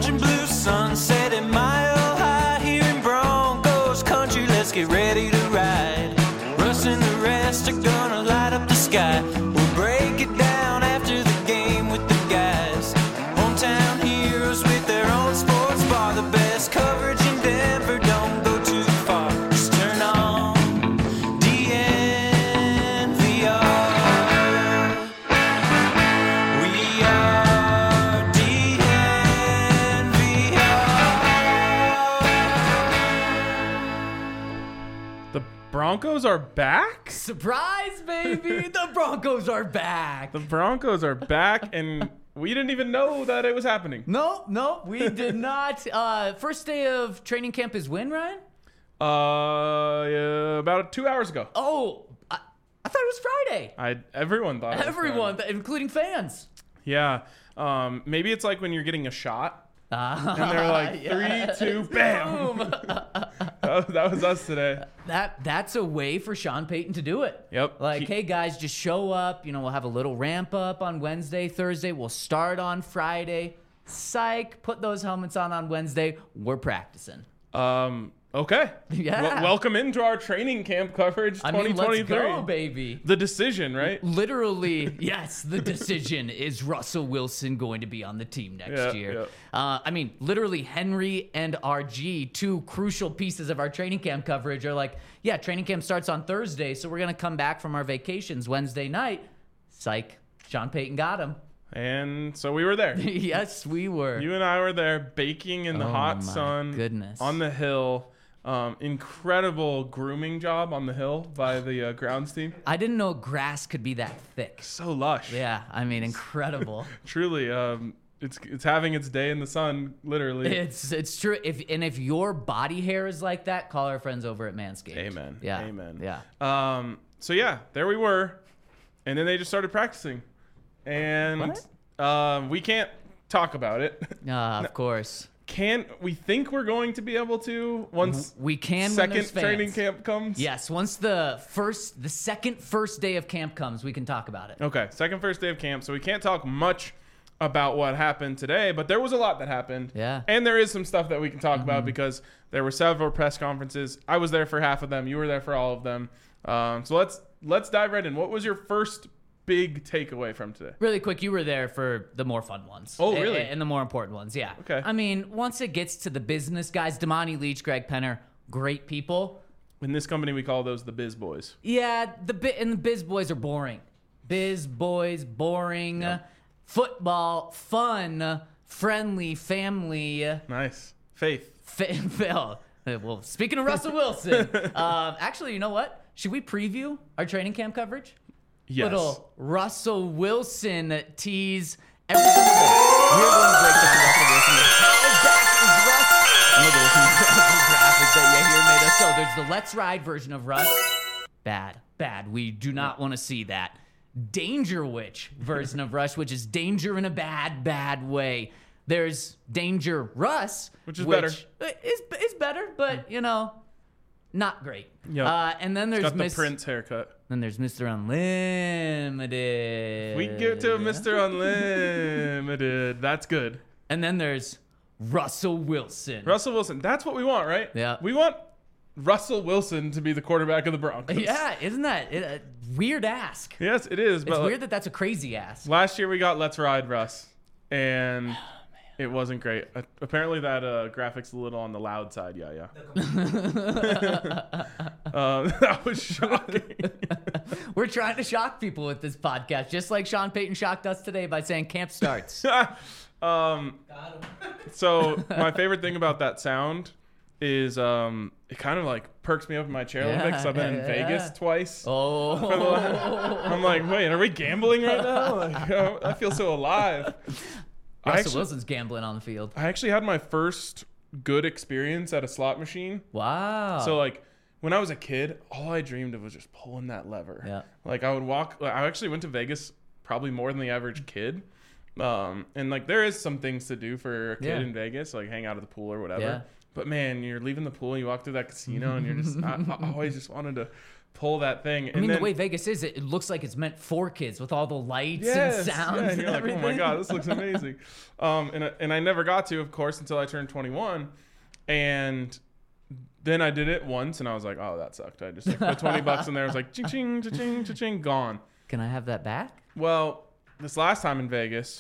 orange and blue sunset at Mile High here in Broncos country. Let's get ready to ride. Russ and the rest are gonna light up the sky. We'll break it down after the game with the guys. Hometown heroes with their own sports bar. The best coverage in Denver, don't go too far. Just turn on DNVR. We are DNVR. The Broncos are back? Surprise, baby! The Broncos are back. The Broncos are back, and we didn't even know that it was happening. No, we did not. First day of training camp is when, Ryan? Yeah, about 2 hours ago. Oh, I thought it was Friday. Everyone thought it was Everyone, Friday. including fans. Yeah. Maybe it's like when you're getting a shot, and they're like, Yes. 3, 2, bam. Boom. That was us today. That's a way for Sean Payton to do it. Yep. Like, hey guys, just show up. We'll have a little ramp up on Wednesday, Thursday. We'll start on Friday. Psych. Put those helmets on Wednesday. We're practicing. Okay. Yeah. Welcome into our training camp coverage 2023. Let's go, baby. The decision, right? Literally, yes, the decision is Russell Wilson going to be on the team next year. Literally Henry and RG, two crucial pieces of our training camp coverage, are like, yeah, training camp starts on Thursday, so we're going to come back from our vacations Wednesday night. Psych. Sean Payton got him. And so we were there. Yes, we were. You and I were there baking in the hot sun. Goodness. On the hill. Incredible grooming job on the hill by the grounds team. I didn't know grass could be that thick. So lush. Yeah, incredible. Truly, it's having its day in the sun, literally. It's true. If your body hair is like that, call our friends over at Manscaped. Amen. Yeah. Amen. Yeah. So yeah, there we were, and then they just started practicing, and we can't talk about it. Of course. We think we're going to be able to once we can second when there's fans. training camp comes? Yes, once the second first day of camp comes, we can talk about it. Okay, first day of camp, so we can't talk much about what happened today, but there was a lot that happened. Yeah. And there is some stuff that we can talk about because there were several press conferences. I was there for half of them. You were there for all of them. So let's dive right in. What was your first big takeaway from today? Really quick, you were there for the more fun ones. Oh, really? And the more important ones, yeah. Okay. Once it gets to the business guys, Damani Leach, Greg Penner, great people. In this company, we call those the biz boys. Yeah, the biz boys are boring. Biz boys, boring. Yep. Football, fun, friendly, family. Nice. Faith. Phil. Well, speaking of Russell Wilson, actually, you know what? Should we preview our training camp coverage? Yes. Little Russell Wilson tease. Every single day, we're going to break down Russell Wilson. How back is Russ? Look at this incredible graphic that you here made us. So there's the Let's Ride version of Russ. Bad. We do not want to see that. Danger Witch version of Russ, which is danger in a bad way. There's Danger Russ, which is better. Is better, but not great. Yeah. And then there's got the Prince haircut. Then there's Mr. Unlimited. We can get to Mr. Unlimited. That's good. And then there's Russell Wilson. Russell Wilson. That's what we want, right? Yeah. We want Russell Wilson to be the quarterback of the Broncos. Yeah, isn't that a weird ask? Yes, it is. It's weird that that's a crazy ask. Last year we got Let's Ride Russ, and it wasn't great. Apparently that graphic's a little on the loud side. Yeah. That was shocking. We're trying to shock people with this podcast, just like Sean Payton shocked us today by saying camp starts. So my favorite thing about that sound is it kind of like perks me up in my chair a little bit because I've been in Vegas twice. Oh. I'm like, wait, are we gambling right now? Like, I feel so alive. Russell Wilson's gambling on the field. I actually had my first good experience at a slot machine. Wow. So like when I was a kid, all I dreamed of was just pulling that lever. Yeah. Like I actually went to Vegas probably more than the average kid. And like there is some things to do for a kid in Vegas, like hang out at the pool or whatever. Yeah. But man, you're leaving the pool, you walk through that casino, and you're just I always just wanted to pull that thing. I mean, the way Vegas is, it looks like it's meant for kids with all the lights and sounds. Yeah, and and you're like, everything. oh my god, this looks amazing. And I never got to, of course, until I turned 21, and then I did it once, and I was like, oh, that sucked. I just like, put $20 in there. I was like, ching, ching, ching, ching, ching, gone. Can I have that back? Well, this last time in Vegas,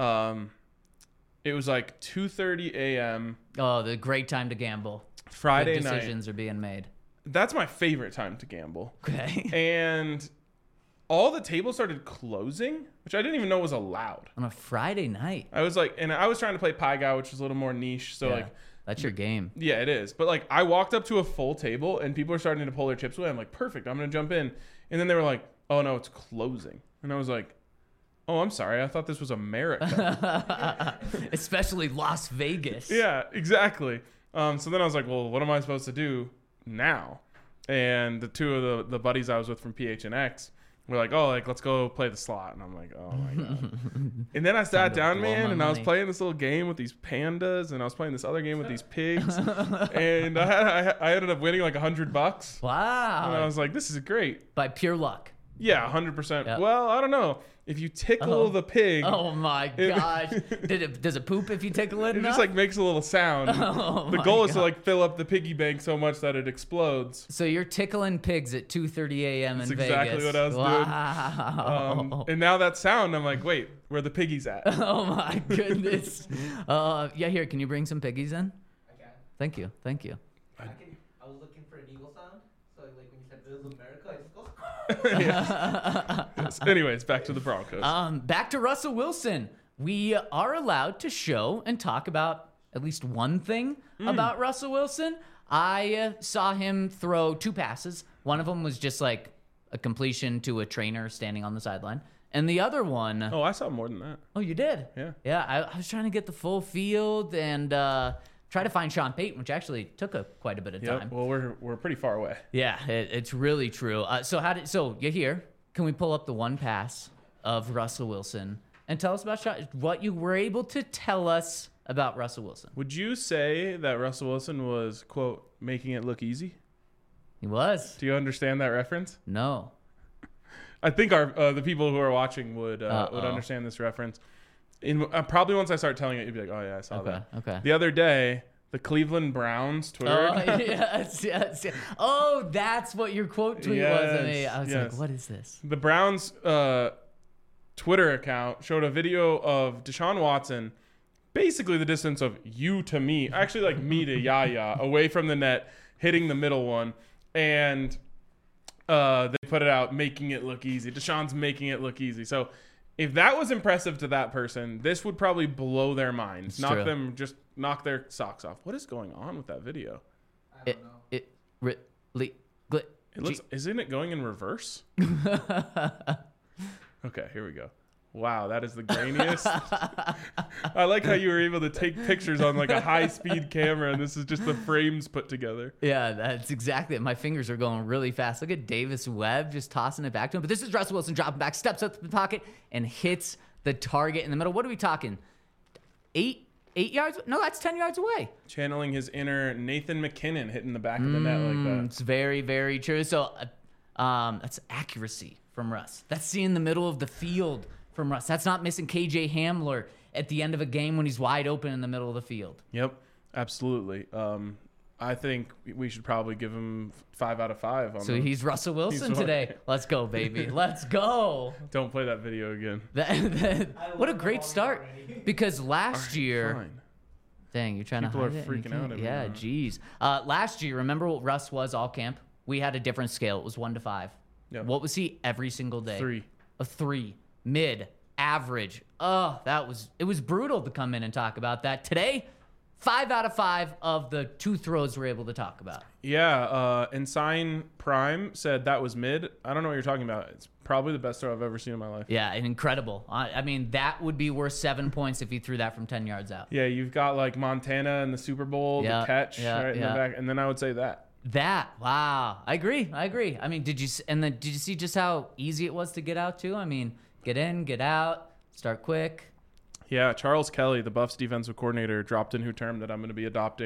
it was like 2:30 a.m. Oh, the great time to gamble. Friday Good night. decisions are being made. That's my favorite time to gamble. Okay. And all the tables started closing, which I didn't even know was allowed. On a Friday night. I was like, and I was trying to play Pie Guy, which is a little more niche. So Yeah, like, that's your game. yeah, it is. But like, I walked up to a full table and people are starting to pull their chips away. I'm like, perfect. I'm going to jump in. And then they were like, oh no, it's closing. And I was like, oh, I'm sorry. I thought this was America. Especially Las Vegas. Yeah, exactly. So then I was like, well, what am I supposed to do now? And the two of the buddies I was with from PHNX were like, oh, like, let's go play the slot. And I'm like, oh my God. And then I sat down, blow man, my and I was money. playing this little game with these pandas, and I was playing this other game with these pigs. And I ended up winning like $100. And I Wow. was like, this is great. By pure luck. Yeah, 100%. Yep. Well, I don't know. If you tickle the pig, Oh my gosh. Does it poop if you tickle it it enough? just like makes a little sound. Oh The my goal is to God. like fill up the piggy bank so much that it explodes. So you're tickling pigs at 2:30 a.m. in That's exactly Vegas. what I was doing. Wow. And now that sound, I'm like, wait, where the piggies at? Oh my goodness. Yeah, here, can you bring some piggies in? I can. Thank you. Thank you. I was looking for an eagle sound, so like when you said this is America, I just go. Yes. Anyways, back to the Broncos. Back to Russell Wilson. We are allowed to show and talk about at least one thing about Russell Wilson. I saw him throw 2 passes. One of them was just like a completion to a trainer standing on the sideline. And the other one, Oh, I saw more than that. oh, you did? Yeah. Yeah, I was trying to get the full field and try to find Sean Payton, which actually took quite a bit of time. Yep. Well, we're pretty far away. Yeah, it's really true. So you're here. Can we pull up the one pass of Russell Wilson and tell us about what you were able to tell us about Russell Wilson? Would you say that Russell Wilson was, quote, making it look easy? He was. Do you understand that reference? No. I think the people who are watching would understand this reference. Probably once I start telling it, you'd be like, oh yeah, I saw Okay. that. Okay. The other day, the Cleveland Browns Twitter Oh, account- yes. Oh, that's what your quote tweet was to me. I was Yes. like, what is this? The Browns Twitter account showed a video of Deshaun Watson, basically the distance of you to me, actually like me to Yaya, away from the net, hitting the middle one, and they put it out, making it look easy. Deshaun's making it look easy. So if that was impressive to that person, this would probably blow their minds, It's true. knock their socks off. What is going on with that video? I don't know. It Isn't it going in reverse? Okay, here we go. Wow, that is the grainiest. I like how you were able to take pictures on like a high-speed camera, and this is just the frames put together. Yeah, that's exactly it. My fingers are going really fast. Look at Davis Webb just tossing it back to him. But this is Russell Wilson dropping back, steps up to the pocket, and hits the target in the middle. What are we talking? 8 yards? No, that's 10 yards away. Channeling his inner Nathan McKinnon, hitting the back of the net like that. It's very, very true. So that's accuracy from Russ. That's seeing the middle of the field from Russ. That's not missing KJ Hamler at the end of a game when he's wide open in the middle of the field. Yep, absolutely. I think we should probably give him 5 out of 5. On So the, he's Russell Wilson He's today. Let's go, baby. Let's go. Don't play that video again. What a great start. Because last year, Fine. dang, you're trying People to are hide it? You freaking out can't- at me Yeah, now. geez. Last year, remember what Russ was all camp? We had a different scale. It was 1 to 5. Yep. What was he every single day? 3. A 3. Mid. Average. Oh, it was brutal to come in and talk about that. Today, 5 out of 5 of the 2 throws we're able to talk about. Yeah, Ensign Prime said that was mid. I don't know what you're talking about. It's probably the best throw I've ever seen in my life. Yeah, and incredible. I mean, that would be worth 7 points if he threw that from 10 yards out. Yeah, you've got like Montana in the Super Bowl, Yeah, the catch yeah, right in the yeah. back, and then I would say that. Wow. I agree. I mean, did you see just how easy it was to get out too? I mean, get in, get out, start quick. Yeah, Charles Kelly, the Buffs defensive coordinator, dropped in who term that I'm going to be adopting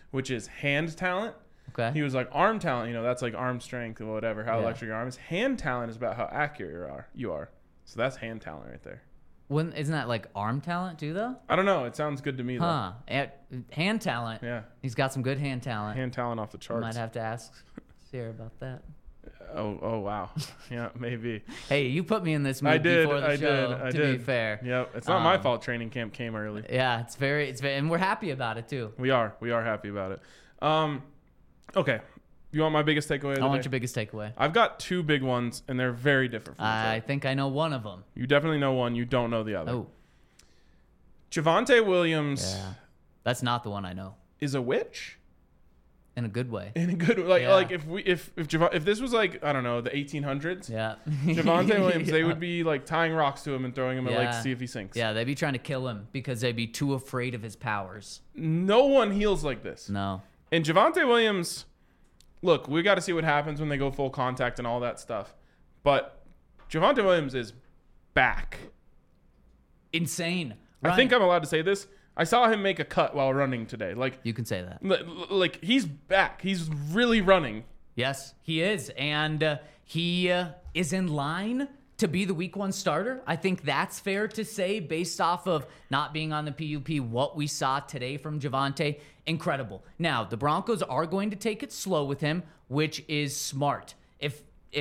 which is hand talent. Okay. He was like arm talent, that's like arm strength or whatever, how Yeah. electric your arm is. Hand talent is about how accurate you are. So that's hand talent right there. Isn't that like arm talent too, though? I don't know. It sounds good to me, though. Huh. Hand talent. Yeah. He's got some good hand talent. Hand talent off the charts. Might have to ask Sierra about that. Oh, wow. Yeah, maybe. Hey, you put me in this mood I did. before the I show. did. I to did. be fair. Yep. It's not my fault training camp came early. Yeah, it's very, and we're happy about it too. We are happy about it. Okay. You want my biggest takeaway of the I want day? your biggest takeaway. I've got two big ones, and they're very different from each I other. think I know one of them. You definitely know one. You don't know the other. Oh, Javonte Williams yeah. That's not the one I know. is a witch In a good way. in a good Yeah. like if this was like, I don't know, the 1800s. Yeah. Javonte Williams, they Yeah. would be like tying rocks to him and throwing him at Yeah. like see if he sinks. Yeah, they'd be trying to kill him because they'd be too afraid of his powers. No one heals like this. No. And Javonte Williams, look, we got to see what happens when they go full contact and all that stuff. But Javonte Williams is back. Insane. I think I'm allowed to say this. I saw him make a cut while running today. Like You can say that. like he's back. He's really running. Yes, he is. And he is in line to be the week 1 starter. I think that's fair to say based off of not being on the PUP, what we saw today from Javonte. Incredible. Now, the Broncos are going to take it slow with him, which is smart. If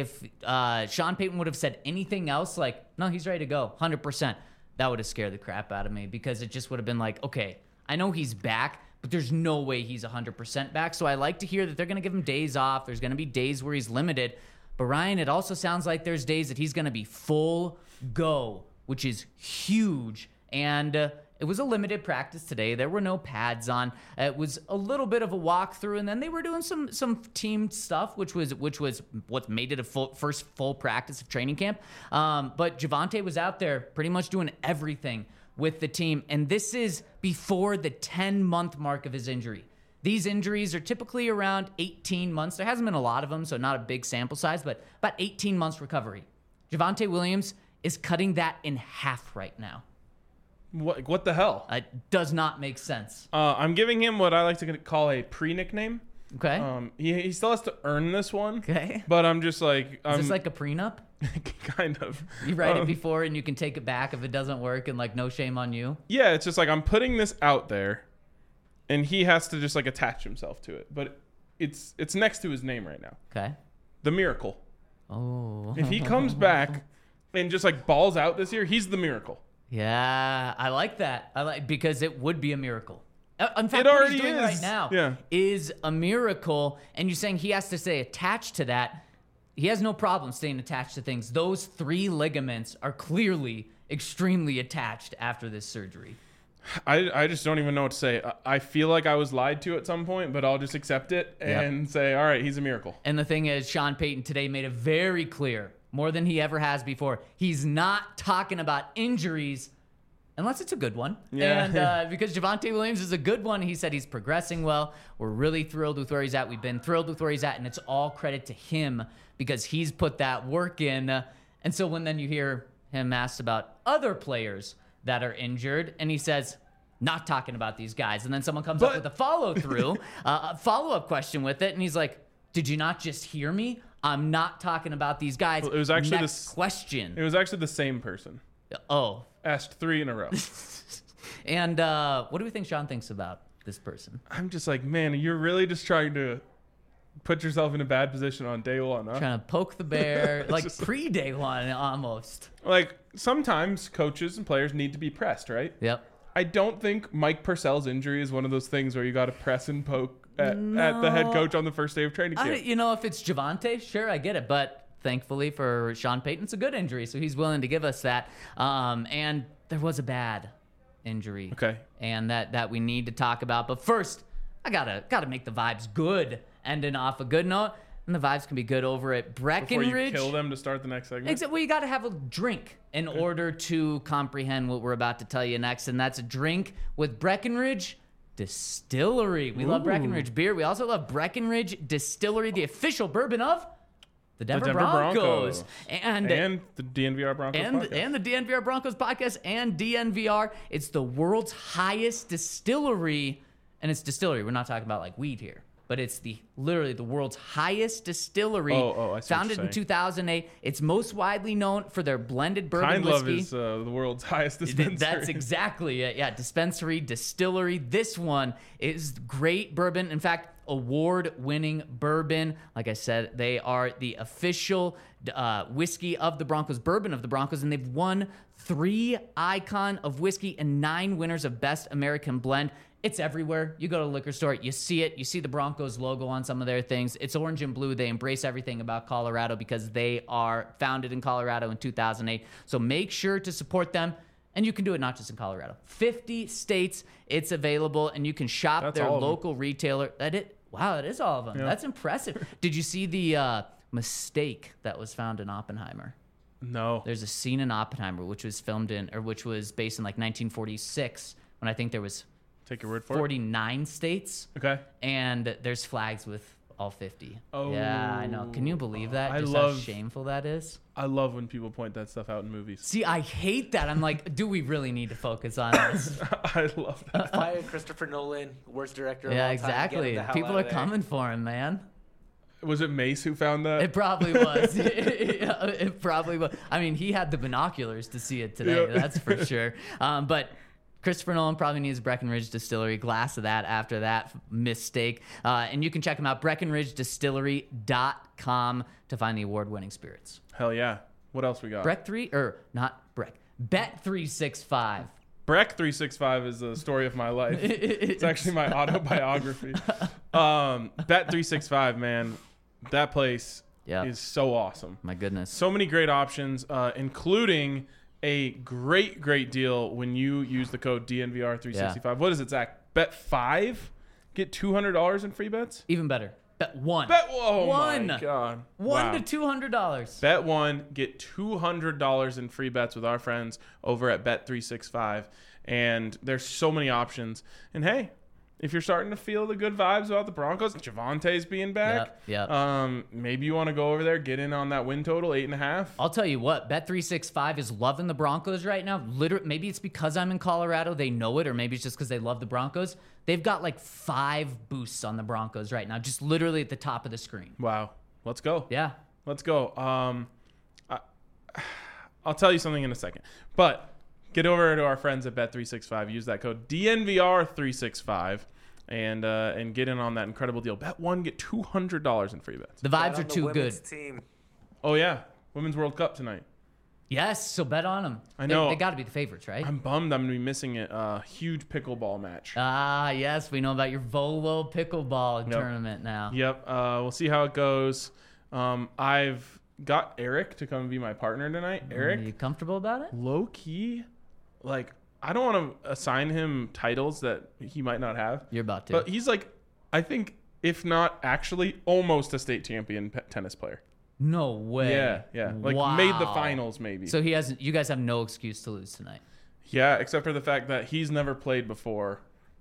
Sean Payton would have said anything else, like, no, he's ready to go, 100%, that would have scared the crap out of me because it just would have been like, okay, I know he's back, but there's no way he's 100% back. So I like to hear that they're going to give him days off. There's going to be days where he's limited. But Ryan, it also sounds like there's days that he's going to be full go, which is huge. And it was a limited practice today. There were no pads on. It was a little bit of a walkthrough, and then they were doing some team stuff, which was what made it a first full practice of training camp. But Javonte was out there pretty much doing everything with the team, and this is before the 10-month mark of his injury. These injuries are typically around 18 months. There hasn't been a lot of them, so not a big sample size, but about 18 months recovery. Javonte Williams is cutting that in half right now. What the hell? It does not make sense. I'm giving him what I like to call a pre-nickname. Okay. He still has to earn this one. Okay. But I'm just like Is this like a prenup? kind of. You write it before and you can take it back if it doesn't work and like no shame on you. Yeah, it's just like I'm putting this out there, and he has to just like attach himself to it. But it's next to his name right now. Okay. The Miracle. Oh. If he comes back and just like balls out this year, he's the Miracle. Yeah, I like that. Because it would be a miracle. In fact, It what already he's doing is. right now Yeah. is a miracle. And you're saying he has to stay attached to that. He has no problem staying attached to things. Those 3 ligaments are clearly extremely attached after this surgery. I just don't even know what to say. I feel like I was lied to at some point, but I'll just accept it and say, all right, he's a miracle. And the thing is, Sean Payton today made it very clear, more than he ever has before, he's not talking about injuries unless it's a good one. Yeah. And because Javonte Williams is a good one, he said he's progressing well. We're really thrilled with where he's at. We've been thrilled with where he's at, and it's all credit to him because he's put that work in. And so when then you hear him asked about other players that are injured, and he says, not talking about these guys. And then someone comes up with a follow-through, a follow-up question with it, and he's like, did you not just hear me? I'm not talking about these guys. Well, it was actually Next question. It was actually the same person. Oh. Asked 3 in a row. And what do we think Sean thinks about this person? I'm just like, man, you're really just trying to put yourself in a bad position on day one, huh? Trying to poke the bear, like just- pre-day one almost. Like, sometimes coaches and players need to be pressed, right? Yep. I don't think Mike Purcell's injury is one of those things where you got to press and poke at the head coach on the first day of training camp. If it's Javonte, sure, I get it. But thankfully for Sean Payton, it's a good injury, so he's willing to give us that. And there was a bad injury. Okay. And that we need to talk about. But first, I gotta make the vibes good, ending off a good note. And the vibes can be good over at Breckenridge. Before you kill them to start the next segment. Except, well, you got to have a drink in order to comprehend what we're about to tell you next, and that's a drink with Breckenridge Distillery. We love Breckenridge beer. We also love Breckenridge Distillery, the official bourbon of the Denver Broncos. And the DNVR Broncos podcast. And the DNVR Broncos podcast and DNVR. It's the world's highest distillery and it's distillery. We're not talking about like weed here, but it's literally the world's highest distillery. I see what you're founded in saying. 2008. It's most widely known for their blended bourbon Kind Love whiskey. is the world's highest dispensary. That's exactly it. Yeah, dispensary, distillery. This one is great bourbon. In fact, award-winning bourbon. Like I said, they are the official whiskey of the Broncos, bourbon of the Broncos, and they've won 3 Icon of Whiskey and 9 winners of Best American Blend. It's everywhere. You go to a liquor store, you see it. You see the Broncos logo on some of their things. It's orange and blue. They embrace everything about Colorado because they are founded in Colorado in 2008. So make sure to support them. And you can do it not just in Colorado. 50 states it's available, and you can shop That's their all of them. local retailer. Wow, that is all of them. Yeah. That's impressive. Did you see the mistake that was found in Oppenheimer? No. There's a scene in Oppenheimer which was based in like 1946 when I think there was Take your word for it. 49 states, Okay. and there's flags with all 50. Oh. Yeah, I know. Can you believe that? I Just love- how shameful that is. I love when people point that stuff out in movies. See, I hate that. I'm like, do we really need to focus on this? I love that. Fire Christopher Nolan, worst director of Yeah, all time. Get him exactly. the hell People out are of there. coming for him, man. Was it Mace who found that? It probably was. It probably was. I mean, he had the binoculars to see it today. Yeah. That's for sure. But Christopher Nolan probably needs Breckenridge Distillery. Glass of that after that mistake. And you can check them out, BreckenridgeDistillery.com, to find the award-winning spirits. Hell yeah. What else we got? Bet365. Breck 365 is the story of my life. It's actually my autobiography. Bet 365, man. That place Yeah. is so awesome. My goodness. So many great options, including a great deal when you use the code DNVR365. Yeah. What is it, Zach? Bet 5? Get $200 in free bets? Even better. Bet 1. Oh One. my God. One Wow. to $200. Bet 1, get $200 in free bets with our friends over at Bet365. And there's so many options. And hey, if you're starting to feel the good vibes about the Broncos, Javante's being back. Yep. Maybe you want to go over there, get in on that win total, 8.5. I'll tell you what, Bet365 is loving the Broncos right now. Literally, maybe it's because I'm in Colorado, they know it, or maybe it's just because they love the Broncos. They've got like 5 boosts on the Broncos right now, just literally at the top of the screen. Wow. Let's go. Yeah. Let's go. I'll tell you something in a second. But get over to our friends at Bet365. Use that code DNVR365 and get in on that incredible deal. Bet 1, get $200 in free bets. The Bet vibes are on the too good. women's Team. Oh, yeah. Women's World Cup tonight. Yes, so bet on them. I know. They got to be the favorites, right? I'm bummed I'm going to be missing a huge pickleball match. Ah, yes, we know about your Volo pickleball tournament now. Yep. We'll see how it goes. I've got Eric to come be my partner tonight. Are you Eric, comfortable about it? low key, like, I don't want to assign him titles that he might not have. You're about to. But he's like, I think, if not actually, almost a state champion tennis player. No way. Yeah. Like, Wow. made the finals, maybe. So he hasn't. You guys have no excuse to lose tonight. Yeah, except for the fact that he's never played before.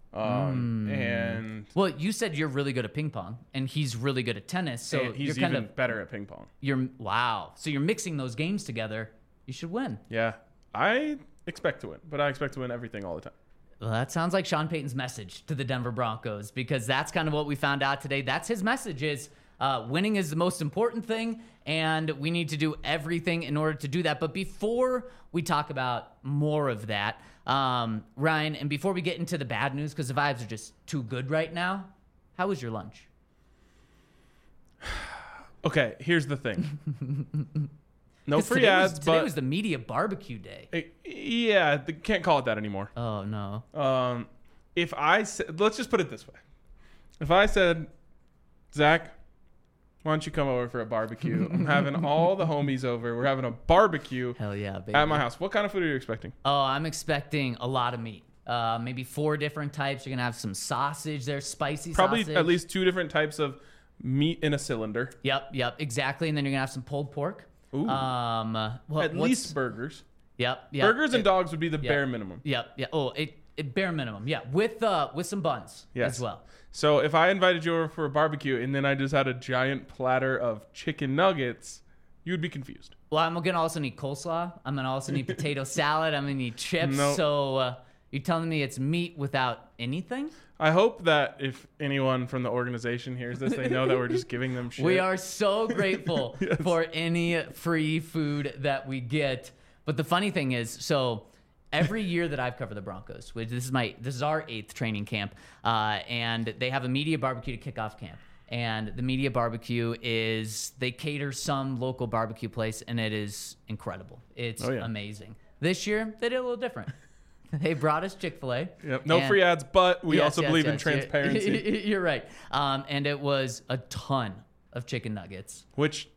And Well, you said you're really good at ping pong, and he's really good at tennis. So and he's you're kind even better at ping pong. wow. So you're mixing those games together. You should win. Yeah. I expect to win, but I expect to win everything all the time. Well, that sounds like Sean Payton's message to the Denver Broncos, because that's kind of what we found out today. That's his message: is winning is the most important thing, and we need to do everything in order to do that. But before we talk about more of that, Ryan, and before we get into the bad news, because the vibes are just too good right now, how was your lunch? Okay, here's the thing. No 'Cause free today ads, today but was the media barbecue day. yeah, they can't call it that anymore. Oh no. If I said, let's just put it this way. If I said, Zach, why don't you come over for a barbecue? I'm having all the homies over. We're having a barbecue Hell yeah, baby. at my house. What kind of food are you expecting? Oh, I'm expecting a lot of meat. Maybe 4 different types. You're gonna have some sausage there, spicy Probably sausage. at least 2 different types of meat in a cylinder. Yep, exactly. And then you're gonna have some pulled pork. Ooh. At least burgers. Yep. Burgers and dogs would be the bare minimum. Yep. Oh, it bare minimum. Yeah, with some buns Yes. as well. So if I invited you over for a barbecue and then I just had a giant platter of chicken nuggets, you would be confused. Well, I'm gonna also need coleslaw. I'm gonna also need potato salad. I'm gonna need chips. Nope. So You telling me it's meat without anything? I hope that if anyone from the organization hears this, they know that we're just giving them shit. We are so grateful Yes. for any free food that we get. But the funny thing is, so every year that I've covered the Broncos, which this is our 8th training camp, and they have a media barbecue to kick off camp. And the media barbecue is they cater some local barbecue place, and it is incredible. It's amazing. This year they did a little different. They brought us Chick-fil-A. Yep. No free ads, but we also believe in transparency. You're right. And it was a ton of chicken nuggets. Which,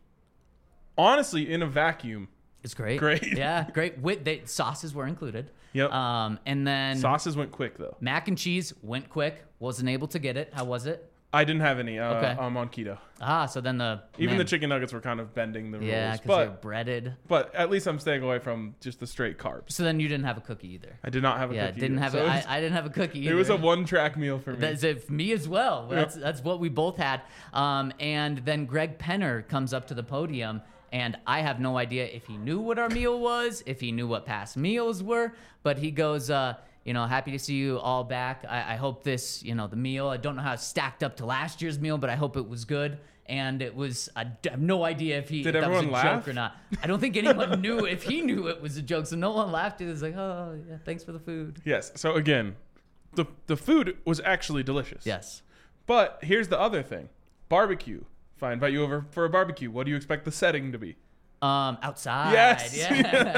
honestly, in a vacuum, It's great. Great. Yeah, great. Sauces were included. Yep. And then Sauces went quick, though. mac and cheese went quick. Wasn't able to get it. How was it? I didn't have any. Okay. I'm on keto. So then the chicken nuggets were kind of bending the yeah, rules. because they're breaded. But at least I'm staying away from just the straight carbs. So then you didn't have a cookie either. I did not have a cookie. Didn't have either. it. So I didn't have a cookie either. it was a one-track meal for me. That's it for me as well. That's what we both had. And then Greg Penner comes up to the podium, and I have no idea if he knew what our meal was, if he knew what past meals were, but he goes, happy to see you all back. I hope this, the meal, I don't know how it stacked up to last year's meal, but I hope it was good. And it was, I have no idea if that was a everyone laugh? joke or not. I don't think anyone knew if he knew it was a joke, so no one laughed. It was like, oh, yeah, thanks for the food. Yes. So again, the food was actually delicious. Yes. But here's the other thing. Barbecue. If I invite you over for a barbecue, what do you expect the setting to be? Outside. Yes. Yeah.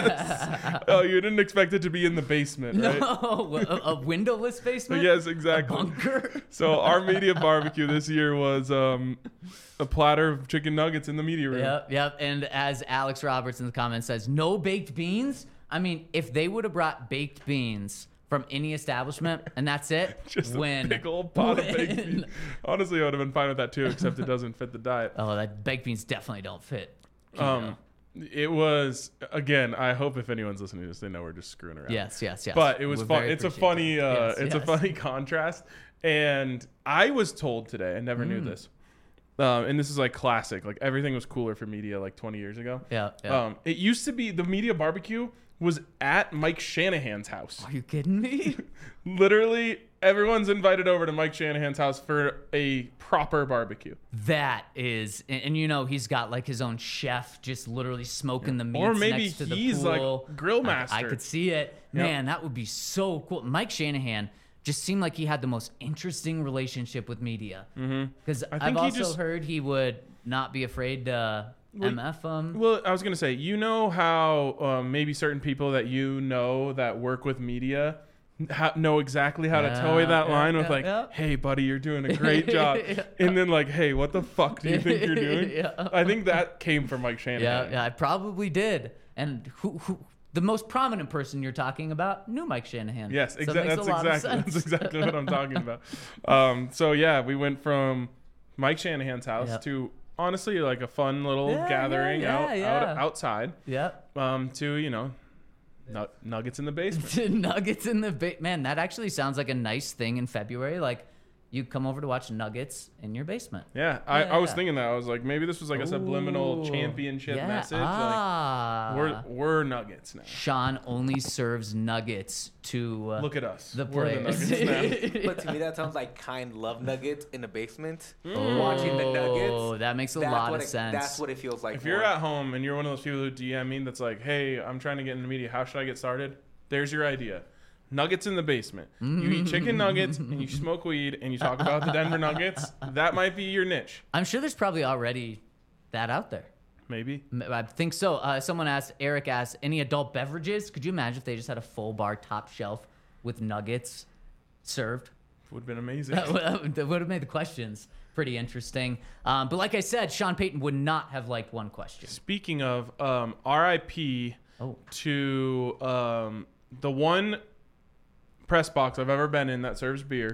Yes. Oh, you didn't expect it to be in the basement, right? No, a windowless basement? Yes, exactly. A bunker? So our media barbecue this year was a platter of chicken nuggets in the media room. Yep. And as Alex Roberts in the comments says, no baked beans? I mean, if they would have brought baked beans from any establishment and that's it, Just win. a big old pot of baked Win. beans. Honestly, I would have been fine with that too, except it doesn't fit the diet. Oh, that baked beans definitely don't fit. keto. It was, again, I hope if anyone's listening to this, they know we're just screwing around. Yes. But it was We're fun. very It's a funny, appreciative. it's a funny contrast. And I was told today, I never knew this. And this is like classic. Like everything was cooler for media like 20 years ago. Yeah. It used to be the media barbecue was at Mike Shanahan's house. Are you kidding me? Literally, everyone's invited over to Mike Shanahan's house for a proper barbecue. That is, and he's got like his own chef just literally smoking the meats Or maybe next to the he's pool. like grill master. I could see it. Man, that would be so cool. Mike Shanahan just seemed like he had the most interesting relationship with media. Because I've also heard he would not be afraid to MF them. Well, I was going to say, you know how maybe certain people that that work with media know exactly how to toe that line with hey, buddy, you're doing a great job. And then like, hey, what the fuck do you think you're doing? I think that came from Mike Shanahan. Yeah, I probably did. And who the most prominent person you're talking about knew Mike Shanahan. Yes, So it makes a lot of sense. That's exactly what I'm talking about. So yeah, we went from Mike Shanahan's house to honestly like a fun little gathering outside. Yep. To nuggets in the basement. Nuggets in the basement. Man, that actually sounds like a nice thing in February. Like, you come over to watch Nuggets in your basement. Yeah, I was thinking that. I was like, maybe this was like a subliminal championship message. Like, we're Nuggets now. Sean only serves Nuggets to look at us. The we're players. the Nuggets now. But to me, that sounds like kind love Nuggets in the basement. Watching the Nuggets. Oh, that makes a lot of sense. That's what it feels like. If you're at home and you're one of those people who DM me that's like, hey, I'm trying to get into media. How should I get started? There's your idea. Nuggets in the basement. You eat chicken nuggets and you smoke weed and you talk about the Denver Nuggets. That might be your niche. I'm sure there's probably already that out there. Maybe. I think so. Eric asked, any adult beverages? Could you imagine if they just had a full bar top shelf with nuggets served? Would have been amazing. That would have made the questions pretty interesting. But like I said, Sean Payton would not have liked one question. Speaking of RIP to the one press box I've ever been in that serves beer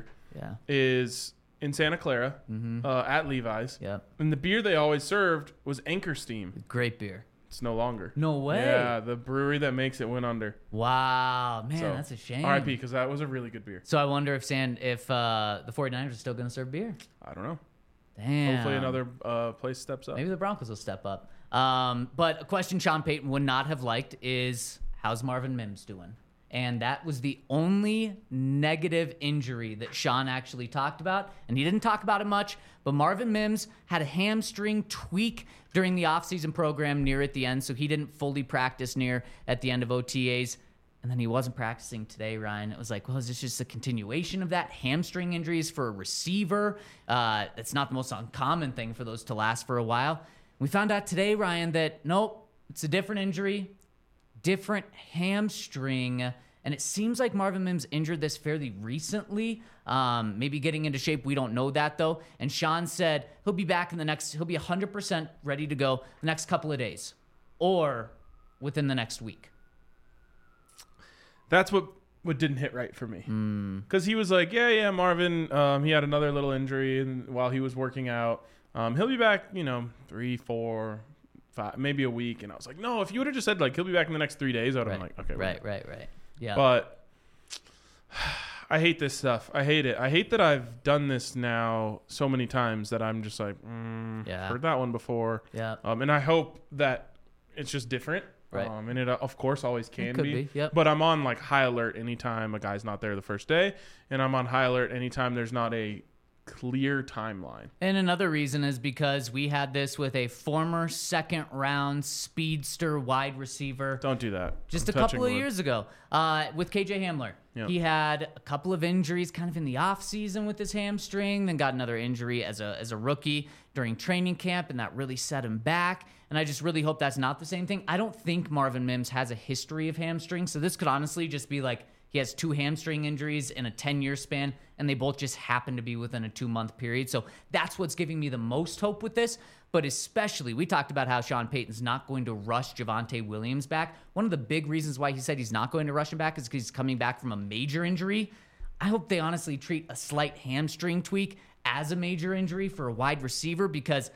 is in Santa Clara at Levi's. Yeah. And the beer they always served was Anchor Steam. Great beer. It's no longer. No way. Yeah, the brewery that makes it went under. Wow. Man, that's a shame. RIP, because that was a really good beer. So I wonder if the 49ers are still going to serve beer. I don't know. Damn. Hopefully another place steps up. Maybe the Broncos will step up. But a question Sean Payton would not have liked is, how's Marvin Mims doing? And that was the only negative injury that Sean actually talked about. And he didn't talk about it much, but Marvin Mims had a hamstring tweak during the offseason program near at the end, so he didn't fully practice near at the end of OTAs. And then he wasn't practicing today, Ryan. It was like, well, is this just a continuation of that? Hamstring injuries for a receiver? It's not the most uncommon thing for those to last for a while. We found out today, Ryan, that nope, it's a different injury, different hamstring. And it seems like Marvin Mims injured this fairly recently, maybe getting into shape. We don't know that, though. And Sean said he'll be back he'll be 100% ready to go the next couple of days or within the next week. That's what didn't hit right for me. Because he was like, yeah, Marvin, he had another little injury while he was working out. He'll be back, 3, 4, 5, maybe a week. And I was like, no, if you would have just said, like, he'll be back in the next 3 days, I would have been like, okay. Right. Yeah. But I hate this stuff. I hate it. I hate that I've done this now so many times that I'm just like, heard that one before. Yeah. And I hope that it's just different. Right. And it, of course, always can could be. Yep. But I'm on, like, high alert anytime a guy's not there the first day. And I'm on high alert anytime there's not a clear timeline. And another reason is because we had this with a former second-round speedster wide receiver. Don't do that. Just I'm a couple touching of wood. years ago with KJ Hamler. Yep. He had a couple of injuries kind of in the offseason with his hamstring, then got another injury as a rookie during training camp, and that really set him back. And I just really hope that's not the same thing. I don't think Marvin Mims has a history of hamstrings, so this could honestly just be like he has 2 hamstring injuries in a 10-year span, and they both just happen to be within a 2-month period. So that's what's giving me the most hope with this. But especially, we talked about how Sean Payton's not going to rush Javonte Williams back. One of the big reasons why he said he's not going to rush him back is because he's coming back from a major injury. I hope they honestly treat a slight hamstring tweak as a major injury for a wide receiver, because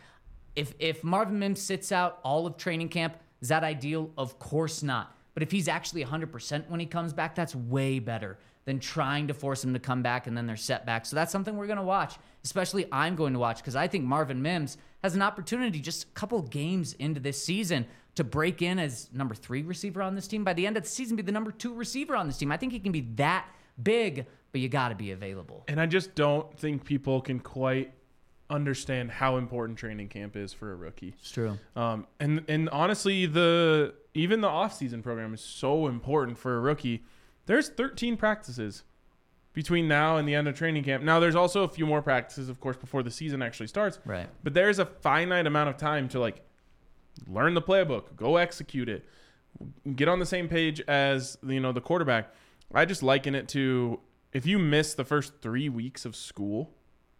if Marvin Mims sits out all of training camp, is that ideal? Of course not. But if he's actually 100% when he comes back, that's way better than trying to force him to come back and then they're set back. So that's something we're going to watch. Especially I'm going to watch, because I think Marvin Mims has an opportunity just a couple games into this season to break in as number 3 receiver on this team. By the end of the season, be the number 2 receiver on this team. I think he can be that big, but you got to be available. And I just don't think people can quite understand how important training camp is for a rookie. It's true. And honestly, even the offseason program is so important for a rookie. There's 13 practices between now and the end of training camp. Now, there's also a few more practices, of course, before the season actually starts. Right. But there's a finite amount of time to, like, learn the playbook, go execute it, get on the same page as, the quarterback. I just liken it to, if you miss the first 3 weeks of school,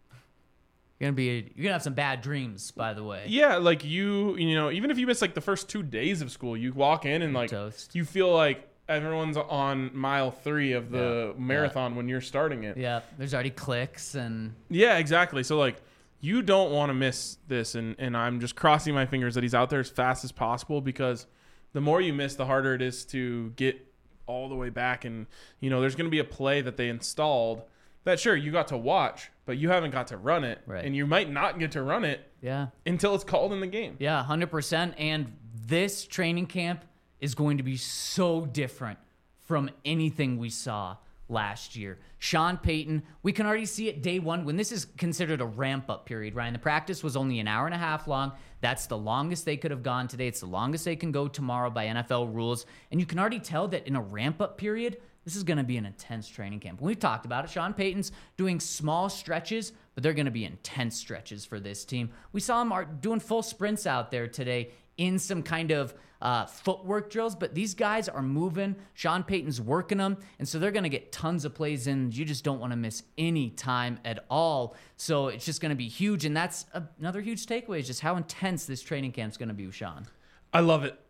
You're gonna have some bad dreams, by the way. yeah, like even if you miss like the first 2 days of school, you walk in and like Toast. you feel like everyone's on mile 3 of the marathon when you're starting it. Yeah, there's already clicks and Yeah, exactly. So like you don't want to miss this, and I'm just crossing my fingers that he's out there as fast as possible, because the more you miss, the harder it is to get all the way back. And there's going to be a play that they installed that, sure, you got to watch, but you haven't got to run it. Right. And you might not get to run it until it's called in the game. Yeah, 100%. And this training camp is going to be so different from anything we saw last year. Sean Payton, we can already see it day one when this is considered a ramp-up period, Ryan. The practice was only an hour and a half long. That's the longest they could have gone today. It's the longest they can go tomorrow by NFL rules. And you can already tell that in a ramp-up period, this is going to be an intense training camp. We've talked about it. Sean Payton's doing small stretches, but they're going to be intense stretches for this team. We saw him doing full sprints out there today in some kind of footwork drills, but these guys are moving. Sean Payton's working them, and so they're going to get tons of plays in. You just don't want to miss any time at all. So it's just going to be huge, and that's another huge takeaway is just how intense this training camp is going to be with Sean. I love it.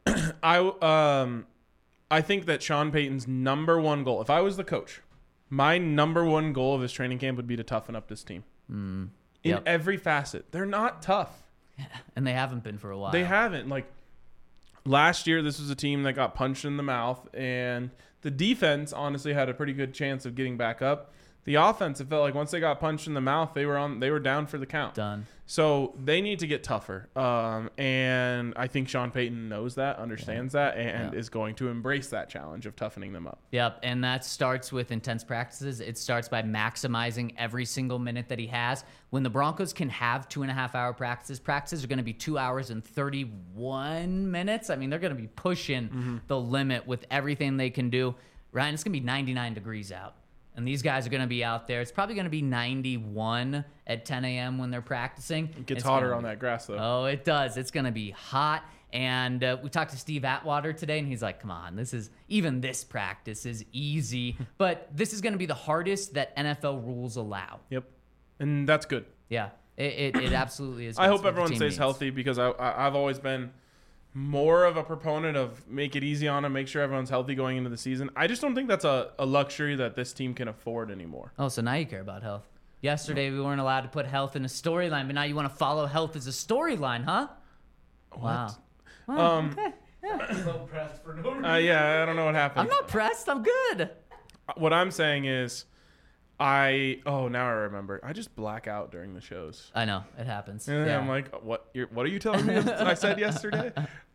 I think that Sean Payton's number one goal, if I was the coach, my number one goal of this training camp would be to toughen up this team. In every facet. They're not tough. And they haven't been for a while. They haven't. Like, last year, this was a team that got punched in the mouth, and the defense honestly had a pretty good chance of getting back up. The offense, it felt like once they got punched in the mouth, they were down for the count. Done. So they need to get tougher. And I think Sean Payton knows that, understands that, and is going to embrace that challenge of toughening them up. Yep, and that starts with intense practices. It starts by maximizing every single minute that he has. When the Broncos can have 2.5-hour practices are going to be 2 hours and 31 minutes. I mean, they're going to be pushing the limit with everything they can do. Ryan, it's going to be 99 degrees out. And these guys are going to be out there. It's probably going to be 91 at 10 a.m. when they're practicing. It gets hotter on that grass, though. Oh, it does. It's going to be hot. And we talked to Steve Atwater today, and he's like, come on, this practice is easy. But this is going to be the hardest that NFL rules allow. Yep. And that's good. Yeah, it absolutely is. I hope everyone stays healthy because I've always been more of a proponent of make it easy on them, make sure everyone's healthy going into the season. I just don't think that's a luxury that this team can afford anymore. Oh, so now you care about health. Yesterday we weren't allowed to put health in a storyline, but now you want to follow health as a storyline, huh? Wow. Okay. Yeah. So pressed for no reason. Yeah, I don't know what happened. I'm not pressed. I'm good. What I'm saying is now I remember. I just black out during the shows. I know. It happens. And yeah. I'm like, what are you telling me I said yesterday?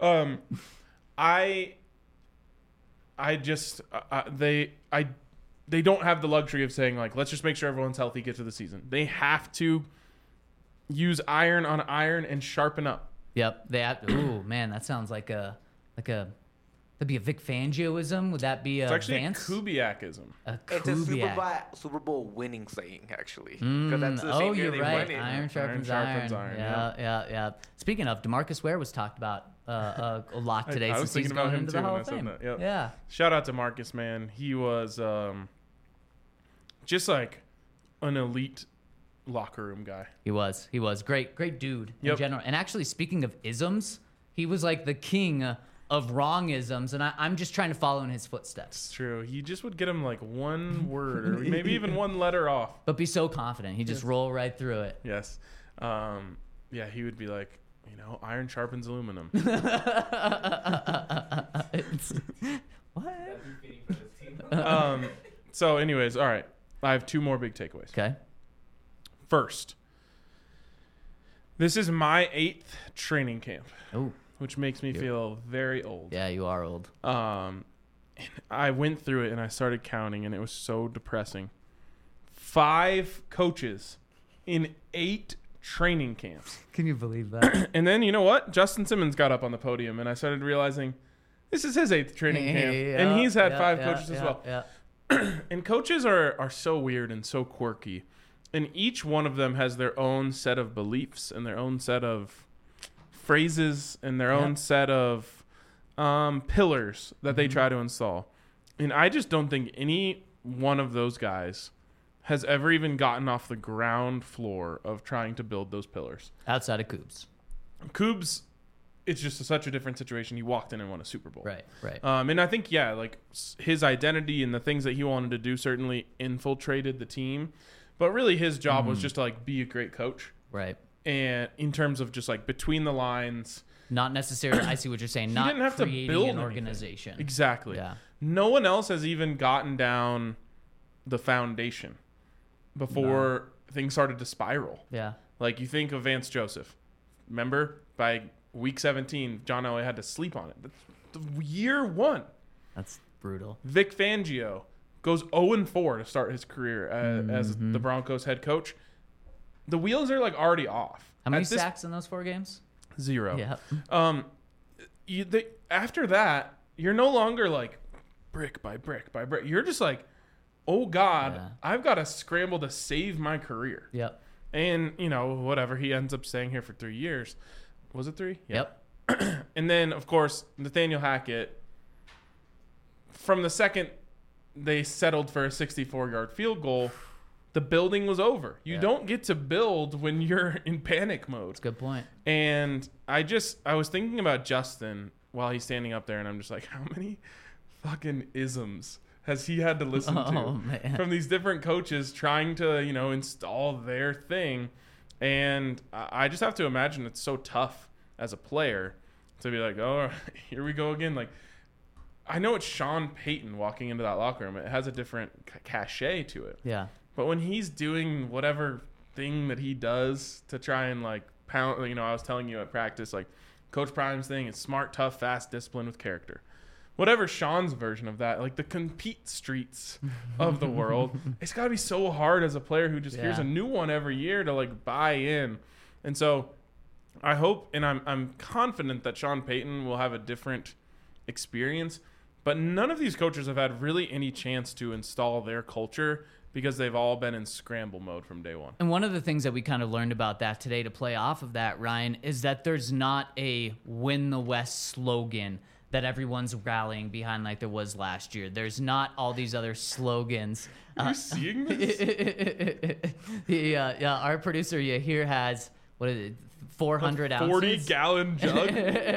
They don't have the luxury of saying, like, let's just make sure everyone's healthy, get to the season. They have to use iron on iron and sharpen up. Yep. Ooh, man, that sounds like that'd be a Vic Fangioism. Would that be It's actually Vance? a Kubiakism. It's a Super Bowl winning saying, actually. 'Cause that's the same year you're they right. won it. Iron sharpens Iron. Yeah. Speaking of, DeMarcus Ware was talked about a lot today I was since he's thinking about going him into too the Hall when I of said Fame. that. Yep. Yeah. Shout out to Marcus, man. He was just like an elite locker room guy. He was great dude in Yep. general. And actually, speaking of isms, he was like the king of wrong isms, and I'm just trying to follow in his footsteps. It's true. He just would get him like one word or maybe even one letter off. But be so confident, he just roll right through it. Yes. Yeah, he would be like, iron sharpens aluminum. What? That'd be fitting for this team. So anyways, all right. I have two more big takeaways. Okay. First, this is my 8th training camp, Oh, which makes me feel very old. yeah, you are old. And I went through it and I started counting, and it was so depressing. 5 coaches in 8 training camps. Can you believe that? And then, you know what? Justin Simmons got up on the podium, and I started realizing this is his 8th training camp. And he's had 5 coaches as well. Yeah. And coaches are so weird and so quirky. And each one of them has their own set of beliefs and their own set of phrases and their own set of pillars that they try to install. And I just don't think any one of those guys has ever even gotten off the ground floor of trying to build those pillars. Outside of Coups. Coups, it's just such a different situation. He walked in and won a Super Bowl. Right. And I think, like his identity and the things that he wanted to do certainly infiltrated the team. But really his job was just to like be a great coach. Right. And in terms of just like between the lines. Not necessarily, I see what you're saying, not didn't have to creating build an anything. organization. Exactly. Yeah. No one else has even gotten down the foundation before things started to spiral. Yeah. Like you think of Vance Joseph. Remember, by week 17, John Elway had to sleep on it. The year 1. That's brutal. Vic Fangio goes 0-4 to start his career as the Broncos head coach. The wheels are like already off. How many sacks in those 4 games? 0. Yeah. After that, you're no longer like brick by brick by brick. You're just like, oh God, I've got to scramble to save my career. Yep. And, whatever. He ends up staying here for 3 years. Was it 3? Yeah. Yep. And then, of course, Nathaniel Hackett, from the second they settled for a 64-yard field goal, the building was over. You don't get to build when you're in panic mode. That's a good point. And I was thinking about Justin while he's standing up there, and I'm just like, how many fucking isms has he had to listen to from these different coaches trying to, install their thing? And I just have to imagine it's so tough as a player to be like, oh, here we go again. Like, I know it's Sean Payton walking into that locker room. It has a different cachet to it. Yeah. But when he's doing whatever thing that he does to try and like pound, I was telling you at practice, like Coach Prime's thing is smart, tough, fast, disciplined with character. Whatever Sean's version of that, like the compete streets of the world, it's got to be so hard as a player who just hears a new one every year to like buy in. And so I hope, and I'm confident that Sean Payton will have a different experience, but none of these coaches have had really any chance to install their culture because they've all been in scramble mode from day one. And one of the things that we kind of learned about that today to play off of that, Ryan, is that there's not a win the West slogan that everyone's rallying behind like there was last year. There's not all these other slogans. Are you seeing this? Our producer here has, what is it, 400 ounces? 40-gallon jug?